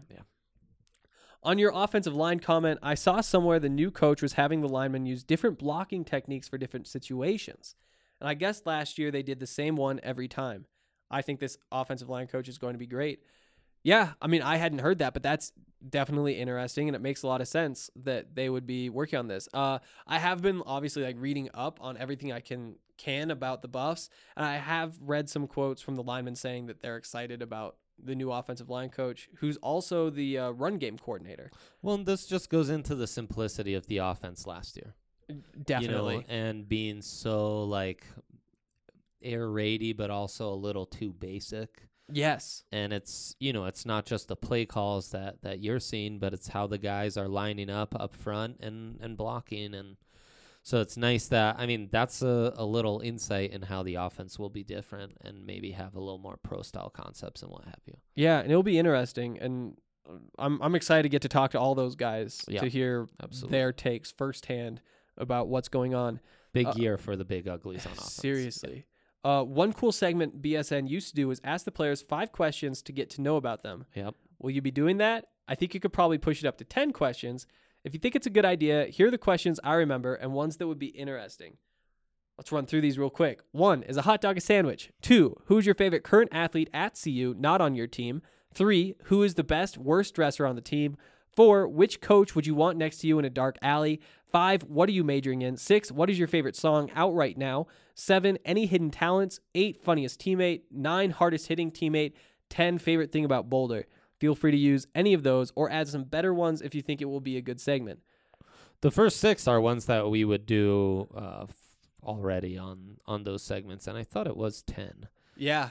On your offensive line comment, I saw somewhere the new coach was having the linemen use different blocking techniques for different situations. And I guess last year they did the same one every time. I think this offensive line coach is going to be great. Yeah, I mean, I hadn't heard that, but that's definitely interesting, and it makes a lot of sense that they would be working on this. I have been obviously like reading up on everything I can about the Buffs, and I have read some quotes from the linemen saying that they're excited about the new offensive line coach, who's also the run game coordinator. Well, and this just goes into the simplicity of the offense last year. Definitely. And being so like air raidy, but also a little too basic. Yes. And it's, it's not just the play calls that you're seeing, but it's how the guys are lining up front and blocking. And so it's nice that, I mean, that's a little insight in how the offense will be different and maybe have a little more pro-style concepts and what have you. Yeah, and it'll be interesting. And I'm excited to get to talk to all those guys to hear their takes firsthand about what's going on. Big year for the big uglies on offense. Seriously. One cool segment BSN used to do was ask the players 5 questions to get to know about them. Yep. Will you be doing that? I think you could probably push it up to 10 questions. If you think it's a good idea, here are the questions I remember and ones that would be interesting. Let's run through these real quick. 1, is a hot dog a sandwich? 2, who's your favorite current athlete at CU, not on your team? 3, who is the best, worst dresser on the team? 4, which coach would you want next to you in a dark alley? 5, what are you majoring in? 6, what is your favorite song out right now? 7, any hidden talents? 8, funniest teammate? 9, hardest hitting teammate? 10, favorite thing about Boulder? Feel free to use any of those or add some better ones if you think it will be a good segment. The first 6 are ones that we would do already on those segments, and I thought it was 10. Yeah.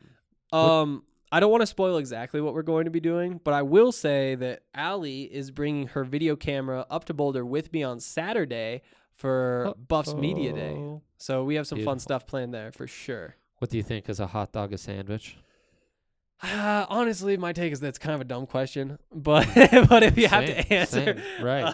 I don't want to spoil exactly what we're going to be doing, but I will say that Allie is bringing her video camera up to Boulder with me on Saturday for Buffs Media Day. So we have some fun stuff planned there for sure. What do you think? Is a hot dog a sandwich? Honestly, my take is that's kind of a dumb question, but if you have to answer, right?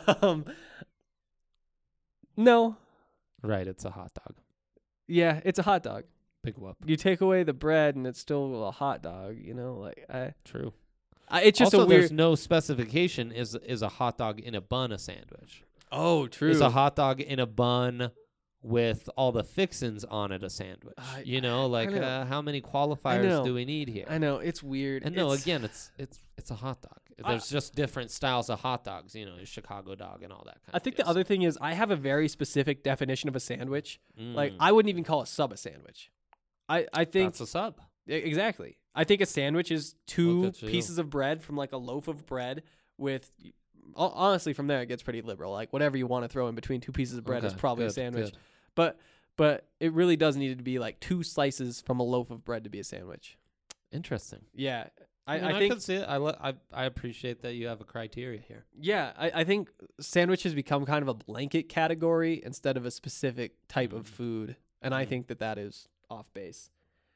No. Right, it's a hot dog. Yeah, it's a hot dog. Big whoop. You take away the bread and it's still a hot dog, True. It's just also, a weird. There's no specification. Is a hot dog in a bun a sandwich? Oh, true. Is a hot dog in a bun with all the fixins on it a sandwich. You know, like how many qualifiers do we need here? I know it's weird. And no, again, it's a hot dog. There's just different styles of hot dogs. You know, Chicago dog and all that kind of I think the other thing is I have a very specific definition of a sandwich. Like Mm. I wouldn't even call a sub a sandwich. I think That's a sub. Exactly. I think a sandwich is two Look at you. pieces of bread from like a loaf of bread with. Honestly, from there it gets pretty liberal. Like whatever you want to throw in between two pieces of bread is Okay, probably a good, sandwich. good. But it really does need to be like two slices from a loaf of bread to be a sandwich. Interesting. Yeah, I think can see it. I appreciate that you have a criteria here. Yeah, I think sandwiches become kind of a blanket category instead of a specific type of food, and I think that is off base.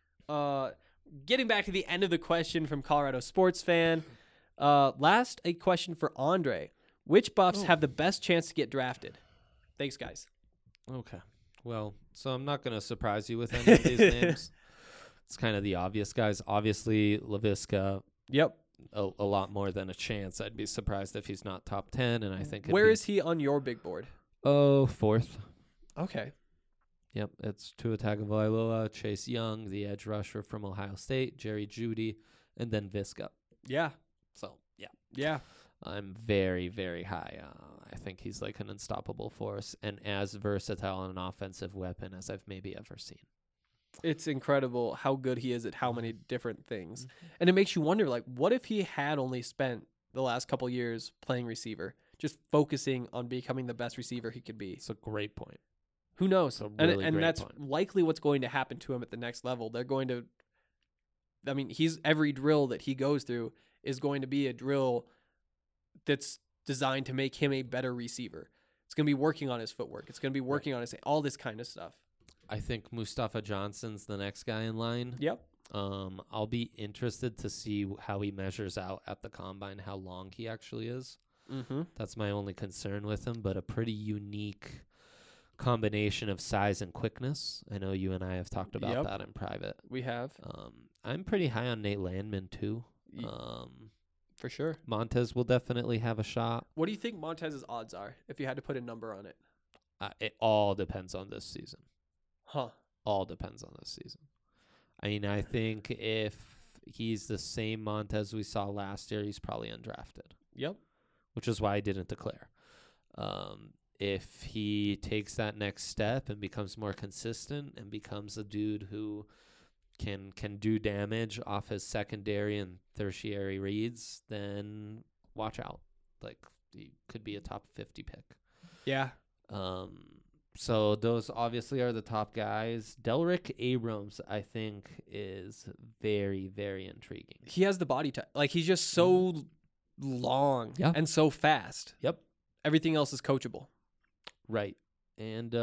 Getting back to the end of the question from Colorado Sports Fan, last a question for Andre. Which Buffs have the best chance to get drafted? Thanks, guys. Okay. Well, so I'm not going to surprise you with any of these names. It's kind of the obvious guys. Obviously, Laviska. Yep. A lot more than a chance. I'd be surprised if he's not top 10, and I think Where is he on your big board? Oh, fourth. Okay. Yep, it's Tua Tagovailoa, Chase Young, the edge rusher from Ohio State, Jerry Jeudy, and then Viska. Yeah. So, yeah. Yeah. I'm very, very high. I think he's like an unstoppable force and as versatile an offensive weapon as I've maybe ever seen. It's incredible how good he is at how many different things. And it makes you wonder, like, what if he had only spent the last couple years playing receiver, just focusing on becoming the best receiver he could be? It's a great point. Who knows? Really and great that's point. likely what's going to happen to him at the next level. They're going to, I mean, every drill that he goes through is going to be a drill that's designed to make him a better receiver. It's going to be working on his footwork. It's going to be working on all this kind of stuff. I think Mustafa Johnson's the next guy in line. Yep. I'll be interested to see how he measures out at the combine, how long he actually is. Mm-hmm. That's my only concern with him, but a pretty unique combination of size and quickness. I know you and I have talked about that in private. We have. I'm pretty high on Nate Landman, too. For sure. Montez will definitely have a shot. What do you think Montez's odds are if you had to put a number on it? It all depends on this season. Huh. All depends on this season. I mean, I think if he's the same Montez we saw last year, he's probably undrafted. Yep. Which is why I didn't declare. If he takes that next step and becomes more consistent and becomes a dude who can do damage off his secondary and tertiary reads, then watch out. Like, he could be a top 50 pick. Yeah. So those obviously are the top guys. Delrick Abrams, I think, is very, very intriguing. He has the body type. Like, he's just so long and so fast. Yep. Everything else is coachable. Right. And,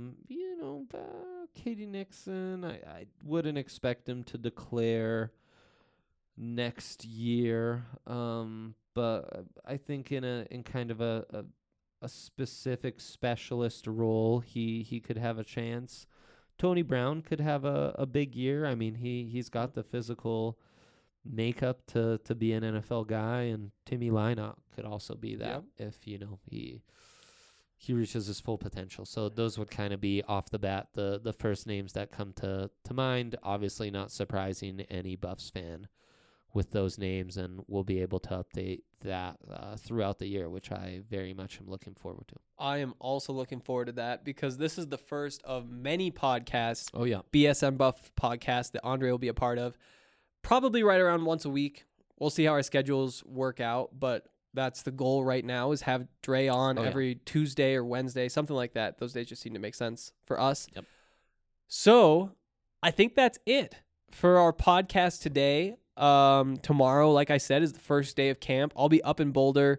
Katie Nixon, I wouldn't expect him to declare next year. But I think in kind of a specific specialist role, he could have a chance. Tony Brown could have a big year. I mean, he's got the physical makeup to be an NFL guy, and Timmy Lynott could also be that if he reaches his full potential. So those would kind of be off the bat the first names that come to mind. Obviously not surprising any Buffs fan with those names, and we'll be able to update that throughout the year, which I very much am looking forward to. I am also looking forward to that because this is the first of many podcasts. Oh, yeah. BSN Buff podcast that Andre will be a part of. Probably right around once a week. We'll see how our schedules work out, but that's the goal right now, is have Dre on every Tuesday or Wednesday, something like that. Those days just seem to make sense for us. Yep. So I think that's it for our podcast today. Tomorrow, like I said, is the first day of camp. I'll be up in Boulder,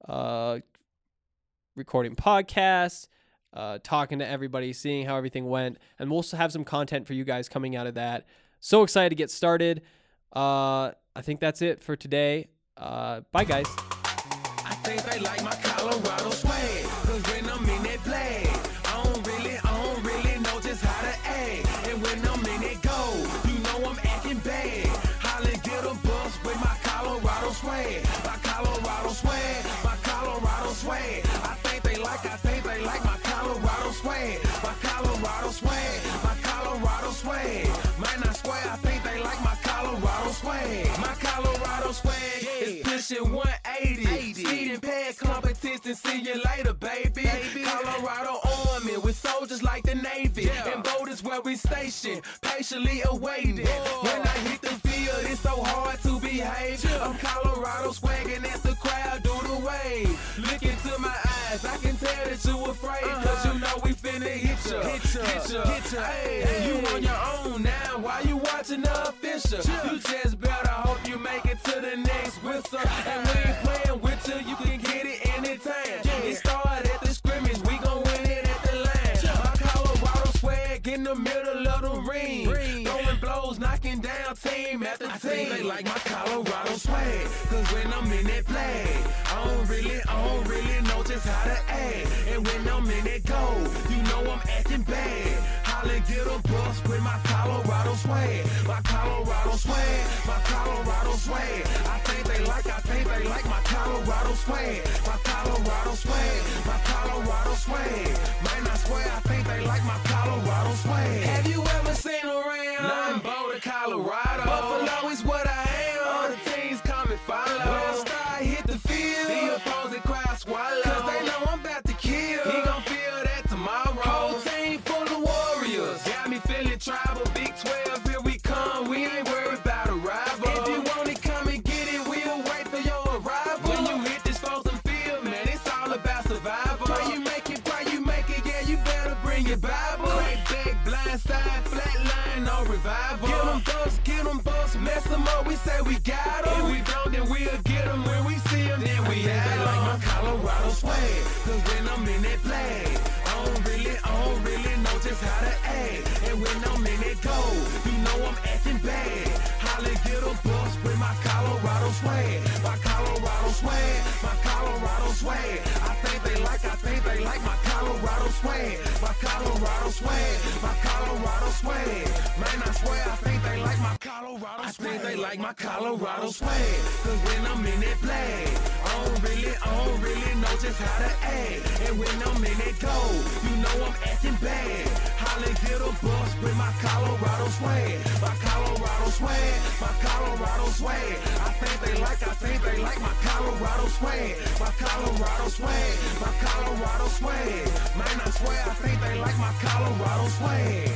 recording podcasts, talking to everybody, seeing how everything went, and we'll also have some content for you guys coming out of that. So excited to get started. I think that's it for today. Bye, guys. I think they like my Colorado swag, 'cause when I'm in that flag, I don't really know just how to act. And when I'm in that goal, you know I'm acting bad. Holly get a bus with my Colorado swag. My Colorado swag, my Colorado swag. I think they like my Colorado swag. My Colorado where we station, patiently awaiting. When I hit the field, it's so hard to behave. I'm Colorado swagging as the crowd do the wave. Look into my eyes, I can tell that you afraid. Cause you know we finna hit ya. Hey, you on your own now, why you watching the official? You just better hope you make it to the next whistle. And we ain't playing with you can get it anytime. It started at the scrimmage, we gon' win it at the line. My Colorado swag in the middle of the ring. Throwing blows, knocking down team after team. I think they like my Colorado swag, cause when I'm in that play, I don't really know just how to act. And when I'm in that goal, you know I'm acting bad. Holla, get a bus with my Colorado swag. My Colorado swag, my Colorado swag. I think they like my Colorado swag. My Colorado swag, my Colorado swag. Man, I swear I think they like my Colorado swag. Have you ever seen around? Nah, I'm Boulder, Colorado. Buffalo is what I am. All the teams come and follow. When I start hit the field, the opposing crowd swallow. Cause they know I'm about to kill. He gon' feel that tomorrow. Whole team full of warriors. Got me feeling tribal. Big 12, here we come. We ain't worried about a rival. If you want it, come and get it. We'll wait for your arrival. When you hit this frozen field, man, it's all about survival. Pray you make it, yeah, you better bring your Bible. Crack back, blind side, flat line, no revival. Get them bucks, mess them up, we say we got them. If we don't, then we'll get them. When we see them, then we have them. They like my Colorado swag, cause when I'm in that flag, I don't really know just how to act. And when I'm in that goal, you know I'm acting bad. Holla, get a bus with my Colorado swag. My Colorado swag, my Colorado swag. I think they like my Colorado swag. My Colorado swag, my Colorado swag. Man, I swear I think they like my Colorado swag. I think they like my Colorado swag. Cause when I'm in that flag, I don't really know just how to act. And when I'm in that goal, you know I'm acting bad. Holla, get a bus with my Colorado swag. My Colorado swag, my Colorado swag. I think they like my Colorado swag. My Colorado swag, my Colorado swag. Man, I swear I think they like my Colorado swag.